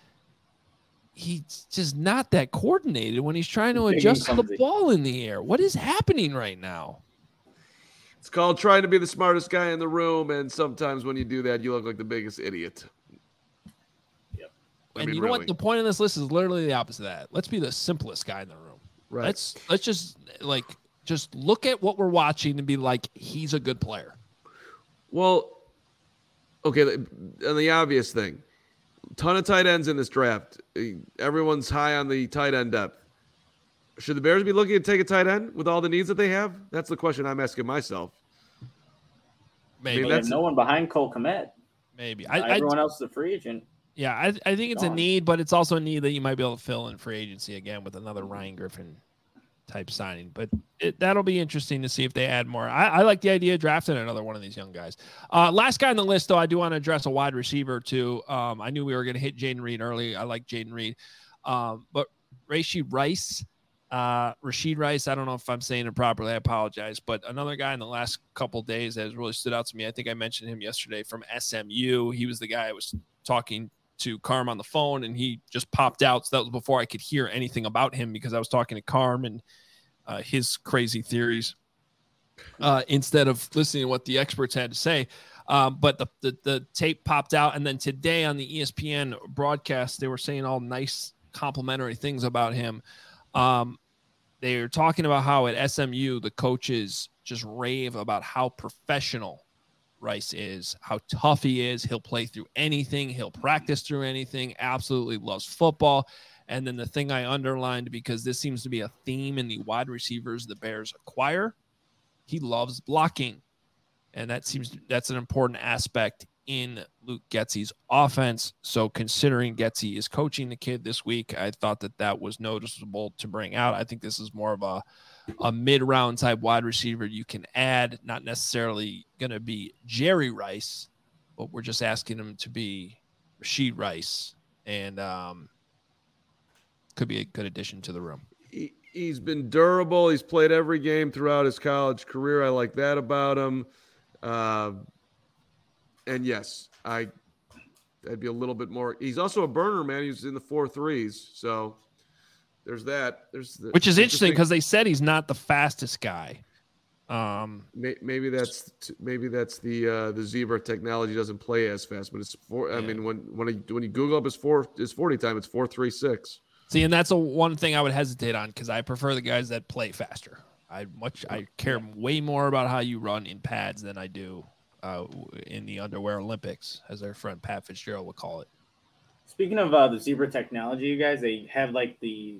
he's just not that coordinated when he's trying to Big and adjust the clumsy. ball in the air. What is happening right now? It's called trying to be the smartest guy in the room, and sometimes when you do that, you look like the biggest idiot. Yep. I And mean, you know really. what? The point of this list is literally the opposite of that. Let's be the simplest guy in the room. Right. Let's let's just like just look at what we're watching and be like, he's a good player. Well, okay, the- and the obvious thing, ton of tight ends in this draft. Everyone's high on the tight end depth. Should the Bears be looking to take a tight end with all the needs that they have? That's the question I'm asking myself. Maybe, They have that's- no one behind Cole Kmet. maybe. I, I Everyone else is a free agent. yeah, I, I think it's a Gone. need, but it's also a need that you might be able to fill in free agency again with another Ryan Griffin type signing. But it, that'll be interesting to see if they add more. I, I like the idea of drafting another one of these young guys. Uh, last guy on the list, though, I do want to address a wide receiver too. Um, I knew we were going to hit Jaden Reed early. I like Jaden Reed, um, but Rashid Rice. Uh, Rashid Rice, I don't know if I'm saying it properly. I apologize. But another guy in the last couple days that has really stood out to me. I think I mentioned him yesterday from S M U. He was the guy I was talking to Carm on the phone, and he just popped out. So that was before I could hear anything about him because I was talking to Carm and uh, his crazy theories uh, instead of listening to what the experts had to say. Um, but the, the the tape popped out, and then today on the E S P N broadcast, they were saying all nice complimentary things about him. Um, they're talking about how at S M U, the coaches just rave about how professional Rice is, how tough he is. He'll play through anything. He'll practice through anything. Absolutely loves football. And then the thing I underlined, because this seems to be a theme in the wide receivers the Bears acquire, he loves blocking. And that seems that's an important aspect in Luke Getsey's offense. So considering Getsey is coaching the kid this week, I thought that that was noticeable to bring out. I think this is more of a, a mid-round type wide receiver you can add, not necessarily going to be Jerry Rice, but we're just asking him to be Rashid Rice, and um, could be a good addition to the room. He, he's been durable. He's played every game throughout his college career. I like that about him. Uh, and yes, I, I'd be a little bit more. He's also a burner, man. He's in the four threes. So there's that. There's the, which is interesting because they said he's not the fastest guy. Um, maybe that's maybe that's the uh, the Zebra technology doesn't play as fast, but it's four. I yeah. mean, when when I, when you Google up his four his forty time, it's four three six. See, and that's a one thing I would hesitate on because I prefer the guys that play faster. I much I care way more about how you run in pads than I do uh, in the underwear Olympics, as our friend Pat Fitzgerald would call it. Speaking of uh, the Zebra technology, you guys, they have like the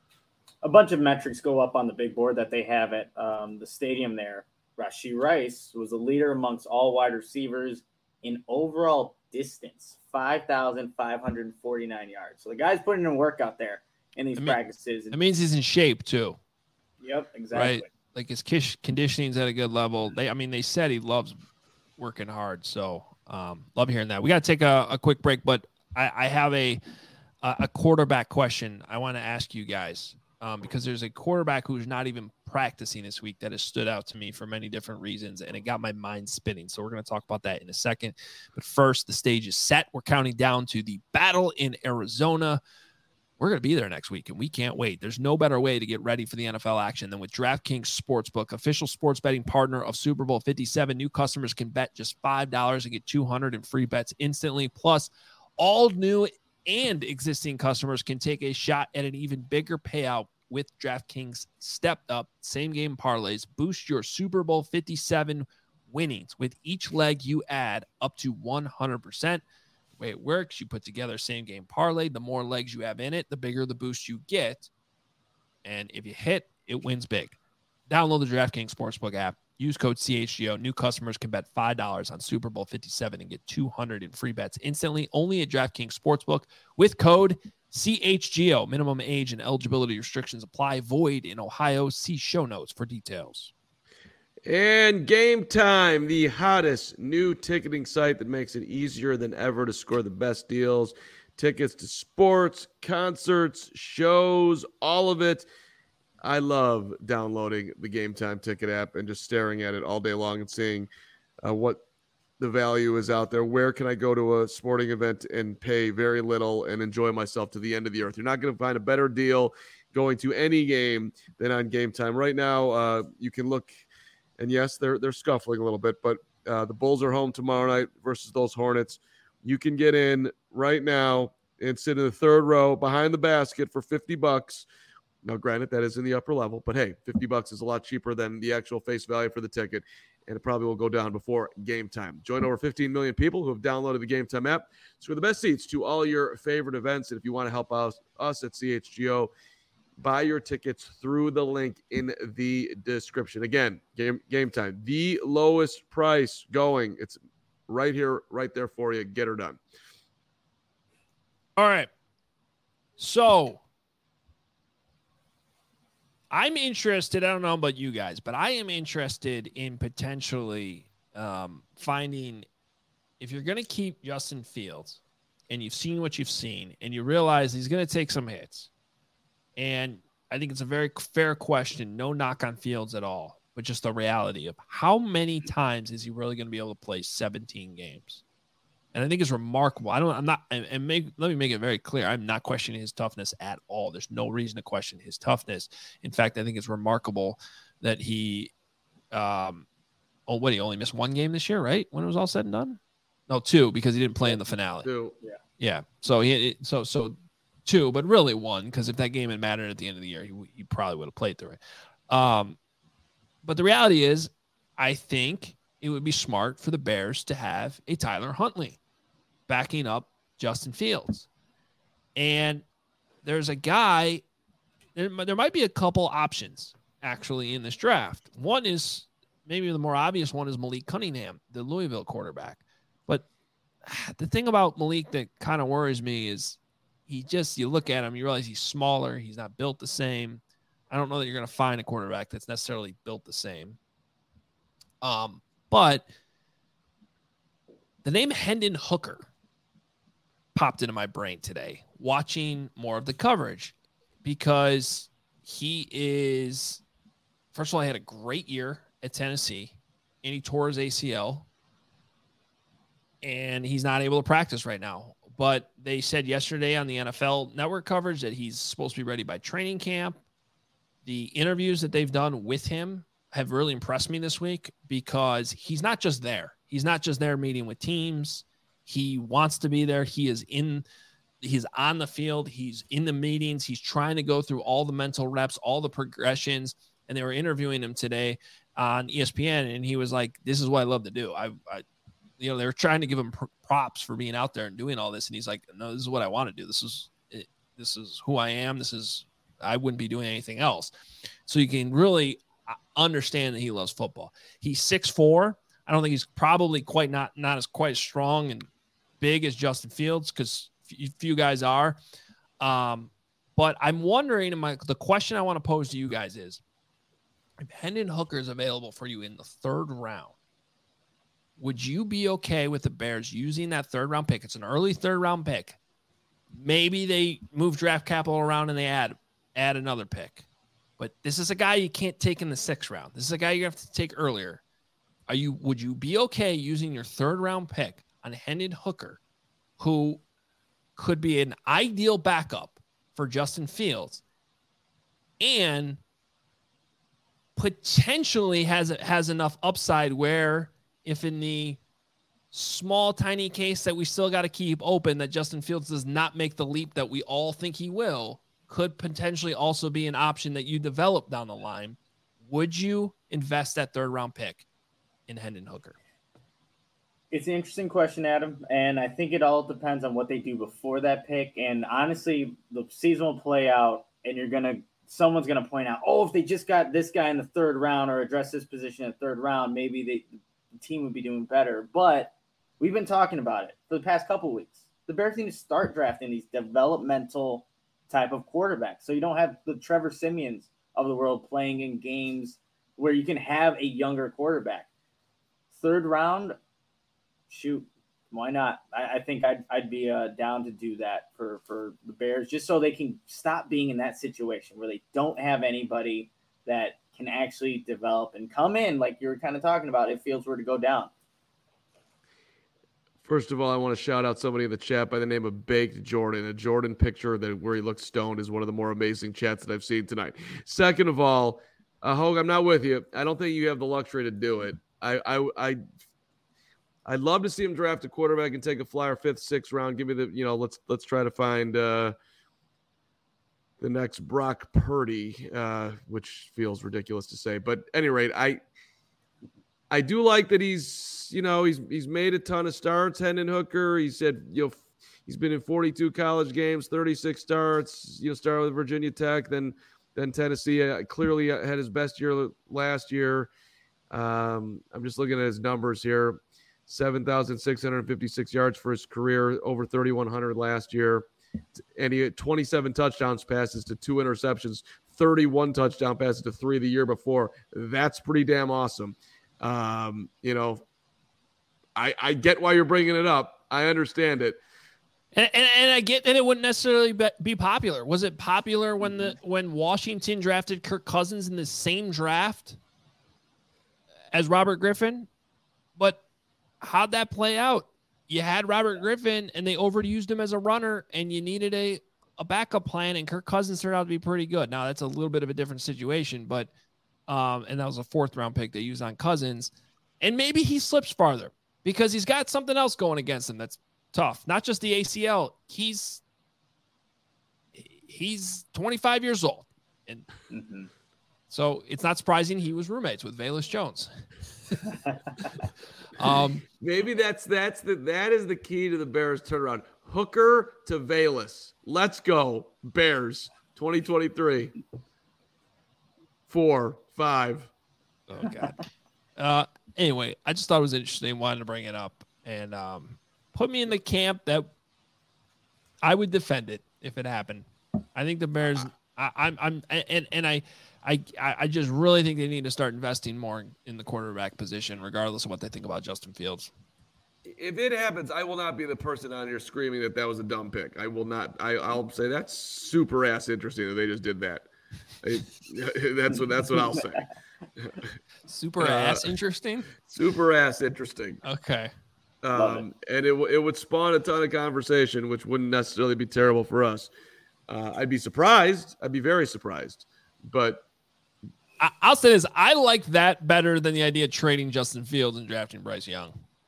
a bunch of metrics go up on the big board that they have at um, the stadium there. Rashid Rice was a leader amongst all wide receivers in overall distance, five thousand five hundred forty-nine yards. So the guy's putting in work out there in these I mean, practices. That means he's in shape too. Yep, exactly. Right. Like his conditioning's at a good level. They, I mean, they said he loves working hard. So um, love hearing that. We got to take a, a quick break, but I, I have a, a quarterback question I want to ask you guys. Um, because there's a quarterback who's not even practicing this week that has stood out to me for many different reasons, and it got my mind spinning. So we're going to talk about that in a second. But first, the stage is set. We're counting down to the battle in Arizona. We're going to be there next week, and we can't wait. There's no better way to get ready for the N F L action than with DraftKings Sportsbook, official sports betting partner of Super Bowl fifty-seven. New customers can bet just five dollars and get two hundred in free bets instantly. Plus, all new and existing customers can take a shot at an even bigger payout with DraftKings stepped up same game parlays. Boost your Super Bowl fifty-seven winnings with each leg you add up to one hundred percent. The way it works, you put together same game parlay. The more legs you have in it, the bigger the boost you get. And if you hit, it wins big. Download the DraftKings Sportsbook app. Use code C H G O. New customers can bet five dollars on Super Bowl fifty-seven and get two hundred in free bets instantly. Only at DraftKings Sportsbook with code C H G O. Minimum age and eligibility restrictions apply. Void in Ohio. See show notes for details. And Game Time, the hottest new ticketing site that makes it easier than ever to score the best deals. Tickets to sports, concerts, shows, all of it. I love downloading the Game Time ticket app and just staring at it all day long and seeing uh, what the value is out there. Where can I go to a sporting event and pay very little and enjoy myself to the end of the earth? You're not going to find a better deal going to any game than on Game Time. Right now, uh, you can look, and yes, they're they're scuffling a little bit, but uh, the Bulls are home tomorrow night versus those Hornets. You can get in right now and sit in the third row behind the basket for fifty bucks. Now, granted, that is in the upper level, but hey, fifty bucks is a lot cheaper than the actual face value for the ticket, and it probably will go down before Game Time. Join over fifteen million people who have downloaded the Game Time app. Score the best seats to all your favorite events, and if you want to help us, us at C H G O, buy your tickets through the link in the description. Again, Game Game Time, the lowest price going. It's right here, right there for you. Get her done. All right. So I'm interested. I don't know about you guys, but I am interested in potentially um, finding if you're going to keep Justin Fields and you've seen what you've seen and you realize he's going to take some hits. And I think it's a very fair question. No knock on Fields at all, but just the reality of how many times is he really going to be able to play seventeen games? And I think it's remarkable. I don't, I'm not, and, and make, let me make it very clear. I'm not questioning his toughness at all. There's no reason to question his toughness. In fact, I think it's remarkable that he, um, oh, what, he only missed one game this year, right? When it was all said and done? No, two, because he didn't play in the finale. Two. Yeah. Yeah. So he, so, so two, but really one, because if that game had mattered at the end of the year, he, he probably would have played through it. Um, but the reality is, I think it would be smart for the Bears to have a Tyler Huntley backing up Justin Fields. And there's a guy, there, there might be a couple options actually in this draft. One is maybe the more obvious one is Malik Cunningham, the Louisville quarterback. But the thing about Malik that kind of worries me is he just, you look at him, you realize he's smaller. He's not built the same. I don't know that you're going to find a quarterback that's necessarily built the same. Um, but the name Hendon Hooker popped into my brain today, watching more of the coverage, because he is, first of all, he had a great year at Tennessee, and he tore his A C L, and he's not able to practice right now. But they said yesterday on the N F L Network coverage that he's supposed to be ready by training camp. The interviews that they've done with him have really impressed me this week, because he's not just there. He's not just there meeting with teams. He wants to be there. He is in, he's on the field. He's in the meetings. He's trying to go through all the mental reps, all the progressions. And they were interviewing him today on E S P N, and he was like, this is what I love to do. I, I you know, they were trying to give him pr- props for being out there and doing all this. And he's like, no, this is what I want to do. This is, it, this is who I am. This is, I wouldn't be doing anything else. So you can really understand that he loves football. He's six foot four. I don't think he's probably quite not, not as quite as strong and big as Justin Fields, because few, few guys are. Um, but I'm wondering, my, the question I want to pose to you guys is, if Hendon Hooker is available for you in the third round, would you be okay with the Bears using that third round pick? It's an early third round pick. Maybe they move draft capital around and they add, add another pick. But this is a guy you can't take in the sixth round. This is a guy you have to take earlier. Are you, would you be okay using your third round pick on Hendon Hooker, who could be an ideal backup for Justin Fields and potentially has, has enough upside where, if in the small, tiny case that we still got to keep open, that Justin Fields does not make the leap that we all think he will, could potentially also be an option that you develop down the line. Would you invest that third round pick in Hendon Hooker? It's an interesting question, Adam, and I think it all depends on what they do before that pick. And honestly, the season will play out, and you're gonna someone's gonna point out, oh, if they just got this guy in the third round or address this position in the third round, maybe they, the team would be doing better. But we've been talking about it for the past couple of weeks. The Bears need to start drafting these developmental type of quarterbacks, so you don't have the Trevor Siemians of the world playing in games where you can have a younger quarterback. Third round, shoot, why not? I, I think I'd I'd be uh, down to do that for for the Bears, just so they can stop being in that situation where they don't have anybody that can actually develop and come in, like you were kind of talking about, if Fields were to go down. First of all, I want to shout out somebody in the chat by the name of Baked Jordan. A Jordan picture that where he looks stoned is one of the more amazing chats that I've seen tonight. Second of all, uh, Hogue, I'm not with you. I don't think you have the luxury to do it. I, I, I, I'd love to see him draft a quarterback and take a flyer fifth, sixth round. Give me the, you know, let's let's try to find uh, the next Brock Purdy, uh, which feels ridiculous to say. But at any rate, I. I do like that he's, you know, he's he's made a ton of starts. Hendon Hooker, he said, you know, he's been in forty-two college games, thirty-six starts. You know, started with Virginia Tech, then then Tennessee. Uh, clearly had his best year last year. Um, I'm just looking at his numbers here: seven thousand six hundred fifty-six yards for his career, over thirty-one hundred last year, and he had twenty-seven touchdowns passes to two interceptions, thirty-one touchdown passes to three the year before. That's pretty damn awesome. Um, you know, I, I get why you're bringing it up. I understand it. And, and, and I get that it wouldn't necessarily be popular. Was it popular when the when Washington drafted Kirk Cousins in the same draft as Robert Griffin? But how'd that play out? You had Robert Griffin, and they overused him as a runner, and you needed a, a backup plan, and Kirk Cousins turned out to be pretty good. Now, that's a little bit of a different situation, but Um, and that was a fourth round pick they used on Cousins. And maybe he slips farther because he's got something else going against him that's tough. Not just the A C L. He's he's twenty-five years old. And mm-hmm. So it's not surprising he was roommates with Velus Jones. um, maybe that's that's the that is the key to the Bears turnaround. Hooker to Velus. Let's go, Bears twenty twenty-three. Four, five. Oh, God. Uh, anyway, I just thought it was interesting. Wanted to bring it up and um, put me in the camp that I would defend it if it happened. I think the Bears. I, I'm. I'm. And and I. I, I just really think they need to start investing more in the quarterback position, regardless of what they think about Justin Fields. If it happens, I will not be the person on here screaming that that was a dumb pick. I will not. I, I'll say that's super ass interesting that they just did that. I, that's what that's what I'll say. Super ass uh, interesting. Super ass interesting. Okay. Um, it. And it it would spawn a ton of conversation, which wouldn't necessarily be terrible for us. Uh, I'd be surprised. I'd be very surprised, but. I'll say this. I like that better than the idea of trading Justin Fields and drafting Bryce Young.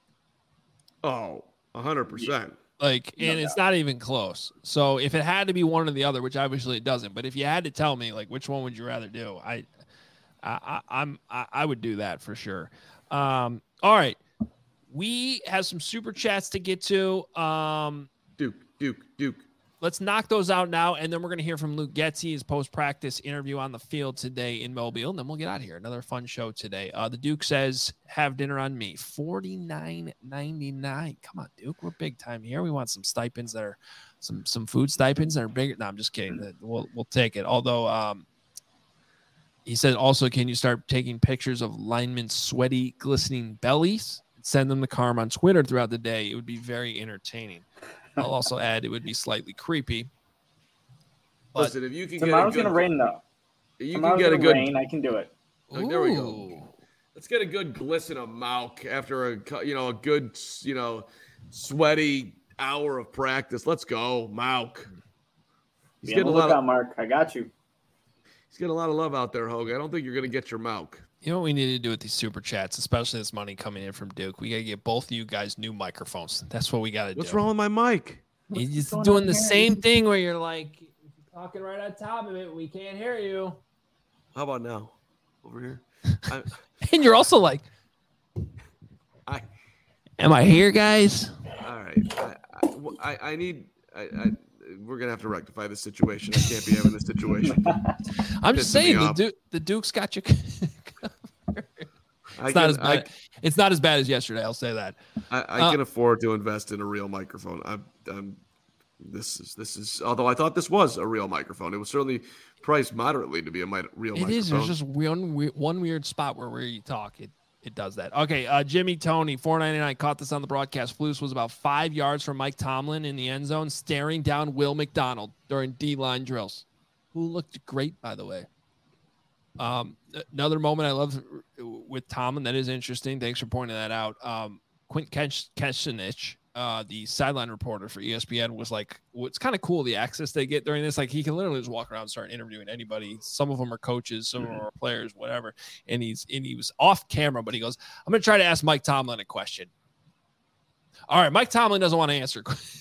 Oh, one hundred percent. Like, and no it's doubt. Not even close. So if it had to be one or the other, which obviously it doesn't, but if you had to tell me, like, which one would you rather do? I, I, I I'm, I, I would do that for sure. Um, all right. We have some super chats to get to. Um, Duke, Duke, Duke. Let's knock those out now, and then we're going to hear from Luke Getsy, his post-practice interview on the field today in Mobile, and then we'll get out of here. Another fun show today. Uh, the Duke says, have dinner on me. forty-nine ninety-nine. Come on, Duke. We're big time here. We want some stipends that are some some food stipends that are bigger. No, I'm just kidding. We'll we'll take it. Although um, he said also, can you start taking pictures of linemen's sweaty, glistening bellies and send them to Carm on Twitter throughout the day? It would be very entertaining. I'll also add it would be slightly creepy. Listen, if you can tomorrow's get a good, gonna rain though. You tomorrow's can get a good rain. I can do it. Like, there we go. Let's get a good glisten of Mauk after a you know a good you know sweaty hour of practice. Let's go, Mauk. He's Be getting a lot of Mark. I got you. He's getting a lot of love out there, Hogue. I don't think you're gonna get your Mauk. You know what we need to do with these super chats, especially this money coming in from Duke? We got to get both of you guys new microphones. That's what we got to do. What's wrong with my mic? He's doing the same thing where you're like you're talking right on top of it. We can't hear you. How about now? Over here. I, and you're also like, I, am I here, guys? All right. I, I, I need. I, I, we're gonna have to rectify this situation. I can't be having this situation. I'm just saying the Duke, the Duke's got you. It's can, not as bad. I, it's not as bad as yesterday. I'll say that. I, I uh, can afford to invest in a real microphone. I'm, I'm. This is this is. Although I thought this was a real microphone, it was certainly priced moderately to be a mi- real it microphone. It is. There's just one one weird spot where we talk. It it does that. Okay. Uh, Jimmy Tony four ninety-nine caught this on the broadcast. Flus was about five yards from Mike Tomlin in the end zone, staring down Will McDonald during D-line drills, who looked great, by the way. Um, another moment I love with Tomlin that is interesting. Thanks for pointing that out. Um, Quint Kessenich, uh, the sideline reporter for E S P N, was like, "What's kind of cool the access they get during this. Like, he can literally just walk around and start interviewing anybody. Some of them are coaches, some of them are players, whatever." And he's and he was off camera, but he goes, "I'm going to try to ask Mike Tomlin a question." All right, Mike Tomlin doesn't want to answer.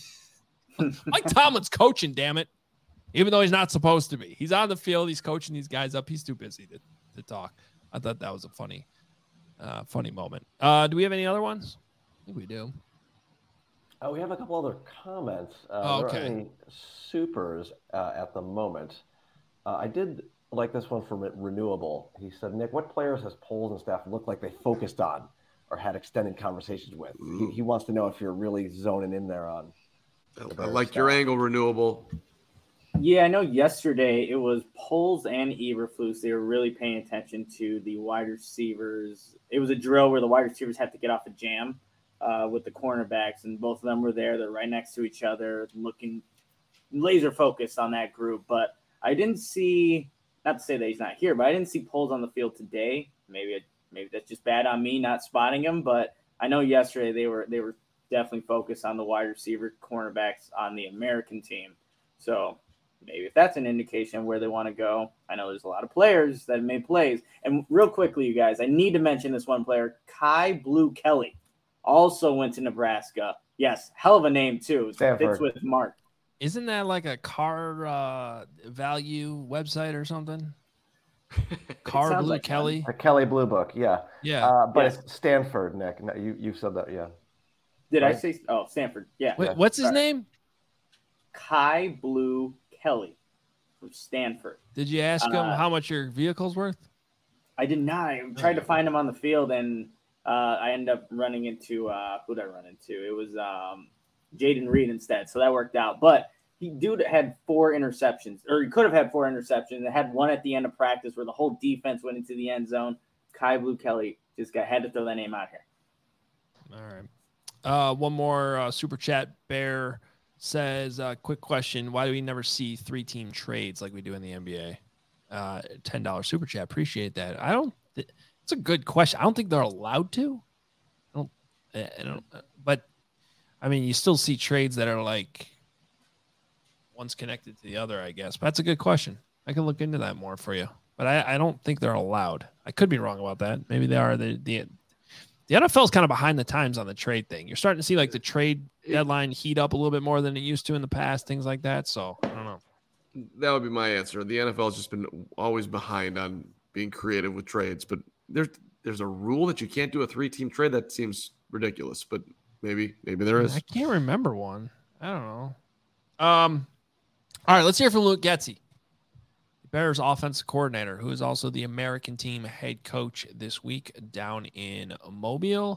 Mike Tomlin's coaching, damn it. Even though he's not supposed to be. He's on the field. He's coaching these guys up. He's too busy to, to talk. I thought that was a funny, uh, funny moment. Uh, do we have any other ones? I think we do. Uh, we have a couple other comments. Uh, oh, okay. There aren't any supers uh, at the moment. Uh, I did like this one from Renewable. He said, Nick, what players has Poles and staff looked like they focused on or had extended conversations with? He, he wants to know if you're really zoning in there on. I like staff. Your angle, Renewable. Yeah, I know yesterday it was Poles and Eberflus. They were really paying attention to the wide receivers. It was a drill where the wide receivers had to get off a jam uh, with the cornerbacks, and both of them were there. They're right next to each other, looking laser focused on that group. But I didn't see, not to say that he's not here, but I didn't see Poles on the field today. Maybe maybe that's just bad on me not spotting him. But I know yesterday they were they were definitely focused on the wide receiver cornerbacks on the American team. So maybe if that's an indication of where they want to go. I know there's a lot of players that have made plays. And real quickly, you guys, I need to mention this one player, Kai Blue Kelly, also went to Nebraska. Yes, hell of a name, too. Stanford. Fits with Mark. Isn't that like a car uh, value website or something? Car Blue like Kelly? A Kelly Blue Book, yeah. Yeah. Uh, but yes. It's Stanford, Nick. No, you, you said that, yeah. Did right? I say – oh, Stanford, yeah. Wait, what's his Sorry. name? Kai Blue Kelly from Stanford. Did you ask him uh, how much your vehicle's worth? I did not. I tried to find him on the field, and uh, I ended up running into uh, who did I run into? It was um, Jaden Reed instead, so that worked out. But he dude had four interceptions, or he could have had four interceptions. And had one at the end of practice where the whole defense went into the end zone. Kai Blue Kelly just got had to throw that name out here. All right. Uh, one more uh, super chat. Bear says, uh, quick question. Why do we never see three team trades like we do in the N B A? Uh, ten dollars super chat. Appreciate that. I don't, th- it's a good question. I don't think they're allowed to. I don't, I don't, but I mean, you still see trades that are like one's connected to the other, I guess. But that's a good question. I can look into that more for you. But I, I don't think they're allowed. I could be wrong about that. Maybe they are. The the the N F L is kind of behind the times on the trade thing. You're starting to see like the trade deadline heat up a little bit more than it used to in the past, things like that. So I don't know. That would be my answer. The N F L has just been always behind on being creative with trades. But there's there's a rule that you can't do a three team trade. That seems ridiculous. But maybe maybe there is. I can't remember one. I don't know. Um. All right, let's hear from Luke Getsy, Bears offensive coordinator, who is also the American team head coach this week down in Mobile.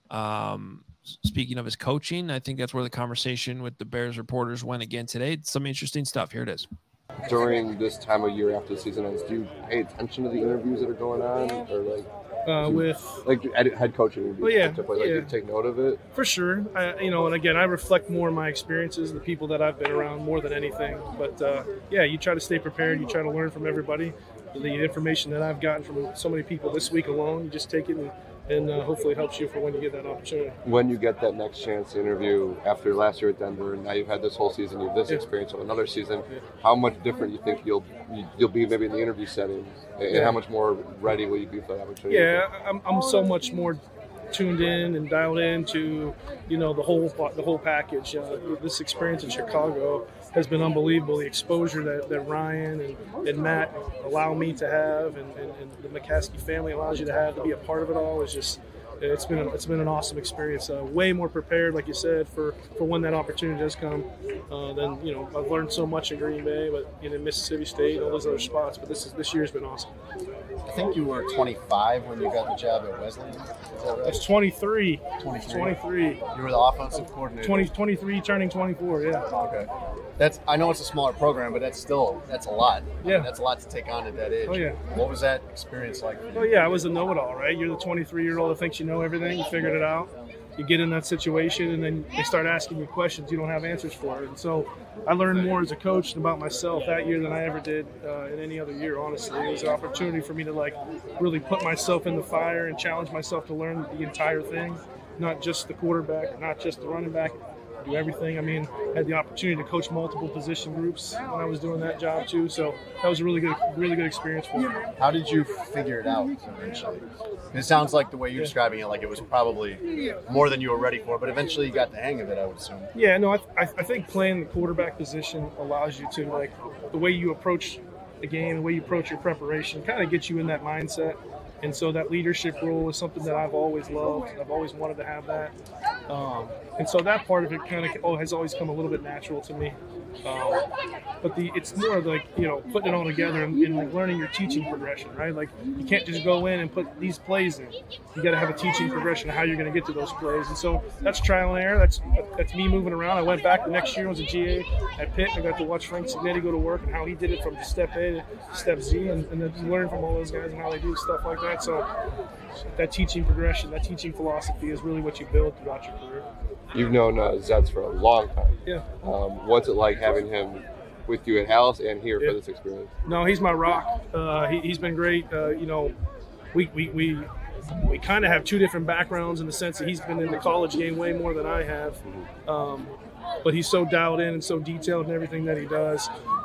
Um, speaking of his coaching, I think that's where the conversation with the Bears reporters went again today. Some interesting stuff. Here it is. During this time of year after the season ends, do you pay attention to the interviews that are going on, or like uh, you, with like head coaching interviews? Well, yeah, like, like yeah. you take note of it for sure. I, you know, and again, I reflect more on my experiences, the people that I've been around more than anything. But uh, yeah, you try to stay prepared. You try to learn from everybody. The information that I've gotten from so many people this week alone, you just take it and. And uh, hopefully it helps you for when you get that opportunity. When you get that next chance to interview after last year at Denver, and now you've had this whole season, you have this yeah. experience of another season, yeah. how much different you think you'll you'll be maybe in the interview setting, and yeah. how much more ready will you be for that opportunity? Yeah, I'm I'm so much more tuned in and dialed in to, you know, the whole the whole package. Uh, this experience in Chicago has been unbelievable. The exposure that, that Ryan and, and Matt allow me to have, and, and, and the McCaskey family allows you to have, to be a part of it all, is just it's been a, it's been an awesome experience. Uh, way more prepared, like you said, for, for when that opportunity does come. Uh, then you know I've learned so much in Green Bay, but you know Mississippi State, all those other spots. But this is this year's been awesome. I think you were twenty-five when you got the job at Wesleyan. Is that right? That's twenty-three. twenty-three. twenty-three. You were the offensive coordinator. twenty, twenty-three, turning twenty-four. Yeah. Okay. That's. I know it's a smaller program, but that's still that's a lot. Yeah. I mean, that's a lot to take on at that age. Oh yeah. What was that experience like for you? Oh yeah, I was a know-it-all, right? You're the twenty-three-year-old that thinks you know everything. You figured it out. You get in that situation, and then they start asking you questions you don't have answers for. And so I learned more as a coach about myself that year than I ever did uh, in any other year, honestly. It was an opportunity for me to, like, really put myself in the fire and challenge myself to learn the entire thing, not just the quarterback, not just the running back, do everything. I mean, I had the opportunity to coach multiple position groups when I was doing that job too. So that was a really good, really good experience for me. How did you figure it out eventually? It sounds like the way you're describing it, like it was probably more than you were ready for, but eventually you got the hang of it, I would assume. Yeah, no, I, I think playing the quarterback position allows you to, like, the way you approach the game, the way you approach your preparation, kind of gets you in that mindset. And so that leadership role is something that I've always loved. I've always wanted to have that. Um, and so that part of it kind of oh, has always come a little bit natural to me. Um, but the it's more like, you know, putting it all together and, and like learning your teaching progression, right? Like you can't just go in and put these plays in. You got to have a teaching progression of how you're going to get to those plays. And so that's trial and error. That's that's me moving around. I went back the next year. I was a G A at Pitt. I got to watch Frank Signetti go to work and how he did it from step A to step Z, and, and then learn from all those guys and how they do stuff like that. So that teaching progression, that teaching philosophy is really what you build throughout your career. You've known uh, Zeds for a long time. Yeah. Um, what's it like having him with you at Alice and here yeah. for this experience? No, he's my rock. Uh, he, he's been great. Uh, you know, we we we, we kind of have two different backgrounds in the sense that he's been in the college game way more than I have. Um, but he's so dialed in and so detailed in everything that he does.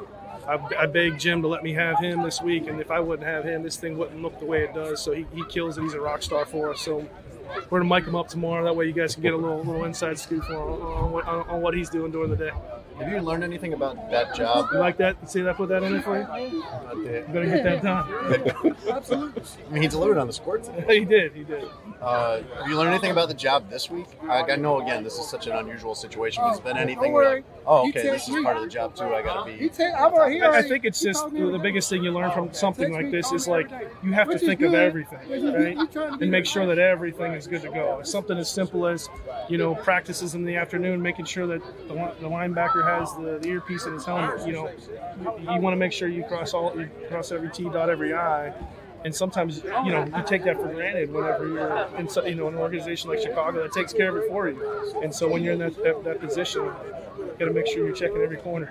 I, I begged Jim to let me have him this week, and if I wouldn't have him, this thing wouldn't look the way it does. So he, he kills it. He's a rock star for us. So we're going to mic him up tomorrow. That way you guys can get a little little inside scoop on, on, what, on what he's doing during the day. Have you learned anything about that job? You like that? See that? Put that in there for you? You better get that done. Absolutely. I mean, he delivered on the score today. He did. He did. Uh, have you learned anything about the job this week? I, I know, again, this is such an unusual situation. Has been anything like, oh, okay, this is part of the job too. I got to be. I, I think it's just the biggest thing you learn from something like this is like you have to think of everything, right? And make sure that everything is good to go. It's something as simple as, you know, practices in the afternoon, making sure that the, the linebacker has the, the earpiece in his helmet. You know, you, you want to make sure you cross all, you cross every T, dot every I. And sometimes, you know, you take that for granted whenever you're in, you know, an organization like Chicago that takes care of it for you. And so when you're in that that, that position, you got to make sure you're checking every corner.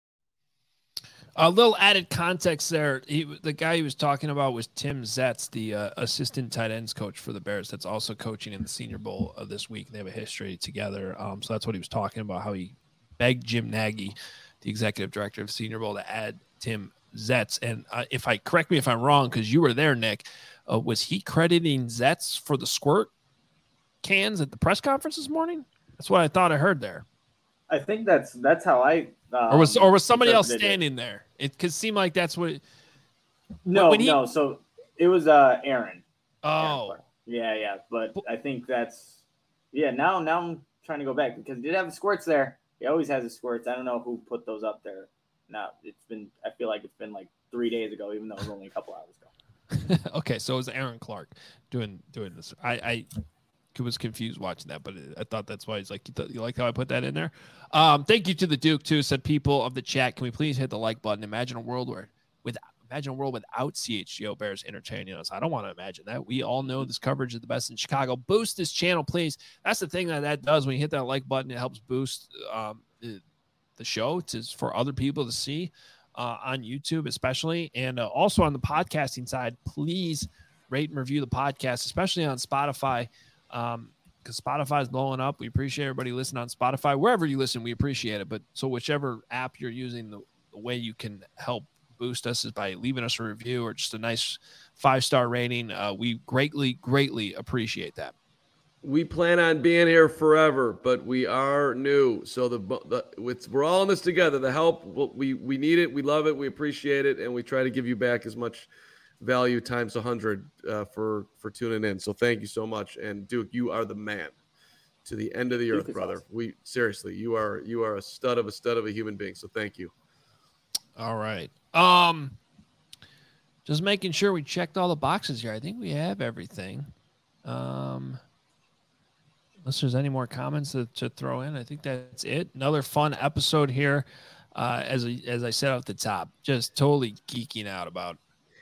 A little added context there. He, the guy he was talking about was Tim Zetz, the uh, assistant tight ends coach for the Bears. That's also coaching in the Senior Bowl uh, this week. They have a history together. Um, so that's what he was talking about, how he begged Jim Nagy, the executive director of Senior Bowl, to add Tim Zetz. And uh, if I correct me if I'm wrong, because you were there, Nick, uh, was he crediting Zetz for the squirt cans at the press conference this morning? That's what I thought I heard there. I think that's that's how I. Um, or was or was somebody else standing it. there? It could seem like that's what. It, no, when he, no. So it was uh, Aaron. Oh, Aaron yeah, yeah. But I think that's yeah. Now, now I'm trying to go back because he did have the squirts there. He always has the squirts. I don't know who put those up there. No, it's been. I feel like it's been like three days ago, even though it was only a couple hours ago. Okay, so it was Aaron Clark doing doing this. I, I was confused watching that, but I thought that's why he's like, you, th- you like how I put that in there? Um, thank you to the Duke too. Said people of the chat, can we please hit the like button? Imagine a world where with imagine a world without C H G O Bears entertaining us. I don't want to imagine that. We all know this coverage is the best in Chicago. Boost this channel, please. That's the thing that that does when you hit that like button. It helps boost um, the, the show to for other people to see uh, on YouTube, especially, and uh, also on the podcasting side. Please rate and review the podcast, especially on Spotify, um, because Spotify is blowing up. We appreciate everybody listening on Spotify. Wherever you listen, we appreciate it. But so whichever app you're using, the, the way you can help boost us is by leaving us a review or just a nice five-star rating. Uh, we greatly, greatly appreciate that. We plan on being here forever, but we are new. So the, the it's, we're all in this together. The help, we we need it. We love it. We appreciate it. And we try to give you back as much value times one hundred uh, for, for tuning in. So thank you so much. And Duke, you are the man to the end of the earth, brother. Awesome. We seriously, you are you are a stud of a stud of a human being. So thank you. All right. Um, just making sure we checked all the boxes here. I think we have everything. Um, unless there's any more comments to, to throw in, I think that's it. Another fun episode here. Uh, as I, as I said at the top, just totally geeking out about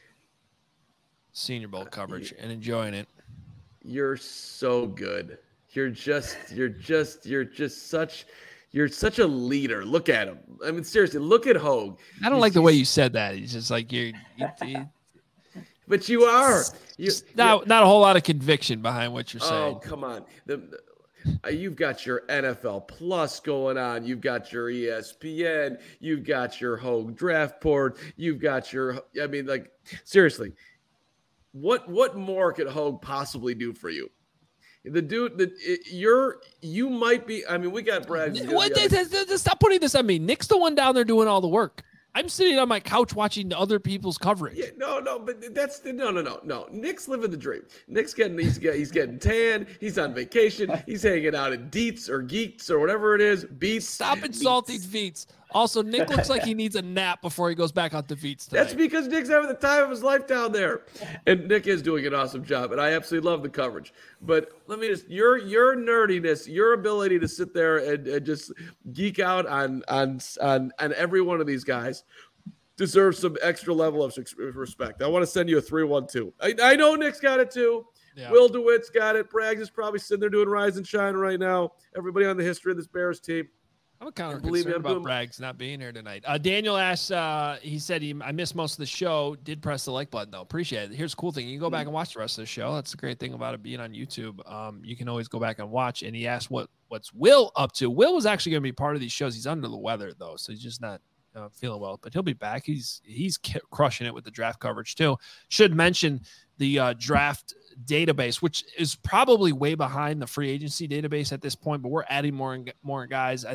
Senior Bowl coverage and enjoying it. You're so good. You're just, you're just, you're just such. You're such a leader. Look at him. I mean, seriously, look at Hogue. I don't he's, like the way you said that. He's just like you're. You, you, but you are. You, not not a whole lot of conviction behind what you're saying. Oh, come on. The, the, uh, you've got your N F L Plus going on. You've got your E S P N. You've got your Hogue Draft Board. You've got your. I mean, like seriously, what what more could Hogue possibly do for you? The dude that you're, you might be. I mean, we got Brad. What? Stop putting this on me. Nick's the one down there doing all the work. I'm sitting on my couch watching other people's coverage. Yeah, no, no, but that's no, no, no, no. Nick's living the dream. Nick's getting, he's getting, he's getting tan. He's on vacation. He's hanging out at Deets or Geeks or whatever it is. Beats. Stop insulting Veets. Also, Nick looks like he needs a nap before he goes back out to Veets tonight. That's because Nick's having the time of his life down there, and Nick is doing an awesome job, and I absolutely love the coverage. But let me just your your nerdiness, your ability to sit there and, and just geek out on on on on every one of these guys deserves some extra level of respect. I want to send you a three one two. I, I know Nick's got it too. Yeah. Will DeWitt's got it. Braggs is probably sitting there doing Rise and Shine right now. Everybody on the history of this Bears team. I'm kind of concerned me, about doing... Braggs not being here tonight. Uh, Daniel asked, uh, he said, he, I missed most of the show. Did press the like button, though. Appreciate it. Here's the cool thing. You can go back and watch the rest of the show. That's the great thing about it being on YouTube. Um, you can always go back and watch. And he asked what what's Will up to. Will was actually going to be part of these shows. He's under the weather, though, so he's just not uh, feeling well. But he'll be back. He's he's crushing it with the draft coverage, too. Should mention the uh, draft database, which is probably way behind the free agency database at this point, but we're adding more and more guys. I think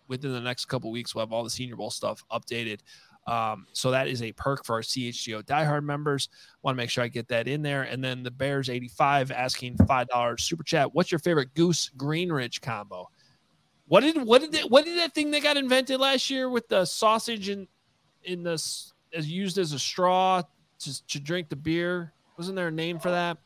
within the next couple weeks, we'll have all the Senior Bowl stuff updated. Um, so that is a perk for our C H G O diehard members. Want to make sure I get that in there. And then the Bears eighty-five asking five dollars super chat. What's your favorite Goose Greenridge combo? What did what did they, what did that thing that got invented last year with the sausage in in this as used as a straw to, to drink the beer? Wasn't there a name for that?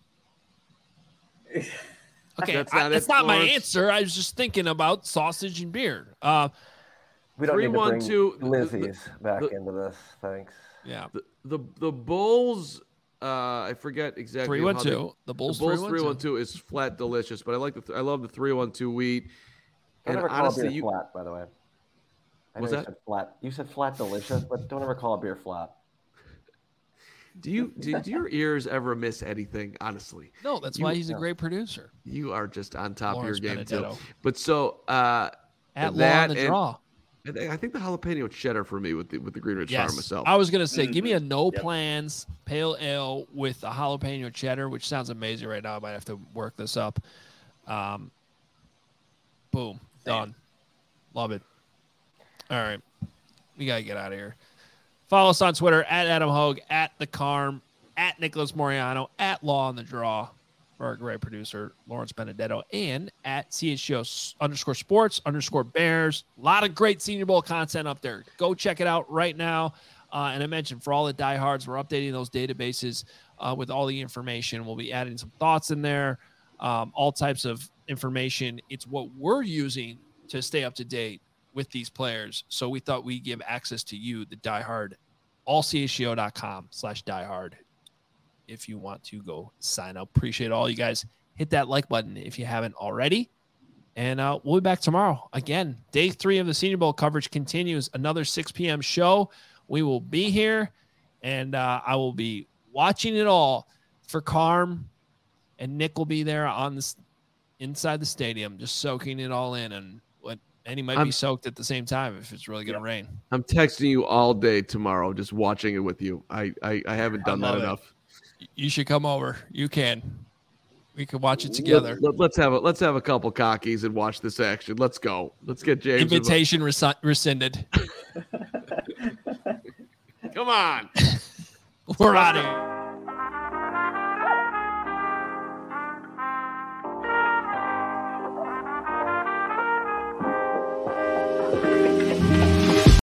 Okay, That's I, not, that's it, not my Lawrence. answer. I was just thinking about sausage and beer. Uh, We don't Three, need to one, bring two, the- the- Lizzie's back the- into this. Thanks. yeah, The the, the Bulls, uh, I forget exactly. three how one they- two. The Bulls, The Bulls three three one one two. two is flat delicious, but I like the th- I love the three one two wheat. Don't And ever call honestly, a beer you flat, by the way. I What's know you that? said flat. You said flat delicious, but don't ever call a beer flat. do you do, do your ears ever miss anything? Honestly, No, that's You- why he's a no. great producer. you are just on top Lawrence of your game Benedetto. too. But so uh, At Law that on the and- draw. I think, I think the jalapeno cheddar for me with the with the Greenridge Farm Yes. myself. I was going to say, give me a no Yep. plans pale ale with a jalapeno cheddar, which sounds amazing right now. I might have to work this up. Um, boom. Done. Love it. All right. We got to get out of here. Follow us on Twitter at Adam Hogue, at The Carm, at Nicholas Moriano, at Law on the Draw for our great producer, Lawrence Benedetto, and at C H G O underscore sports underscore bears. A lot of great Senior Bowl content up there. Go check it out right now. Uh, and I mentioned for all the diehards, we're updating those databases uh, with all the information. We'll be adding some thoughts in there, um, all types of information. It's what we're using to stay up to date with these players. So we thought we'd give access to you, the diehard, all C H G O dot com slash diehard. If you want to go sign up. Appreciate all you guys. Hit that like button if you haven't already. And uh, we'll be back tomorrow. Again, day three of the Senior Bowl coverage continues. Another six p.m. show. We will be here, and uh, I will be watching it all for Carm, and Nick will be there on this inside the stadium, just soaking it all in. And what and he might I'm- be soaked at the same time if it's really going to rain. I'm texting you all day tomorrow, just watching it with you. I I, I haven't done I that love it. enough. You should come over. You can. We can watch it together. Let, let, us have a let's have a couple cockies and watch this action. Let's go. Let's get James. involved. Invitation resi- rescinded. Come on. We're out of here. Thank you.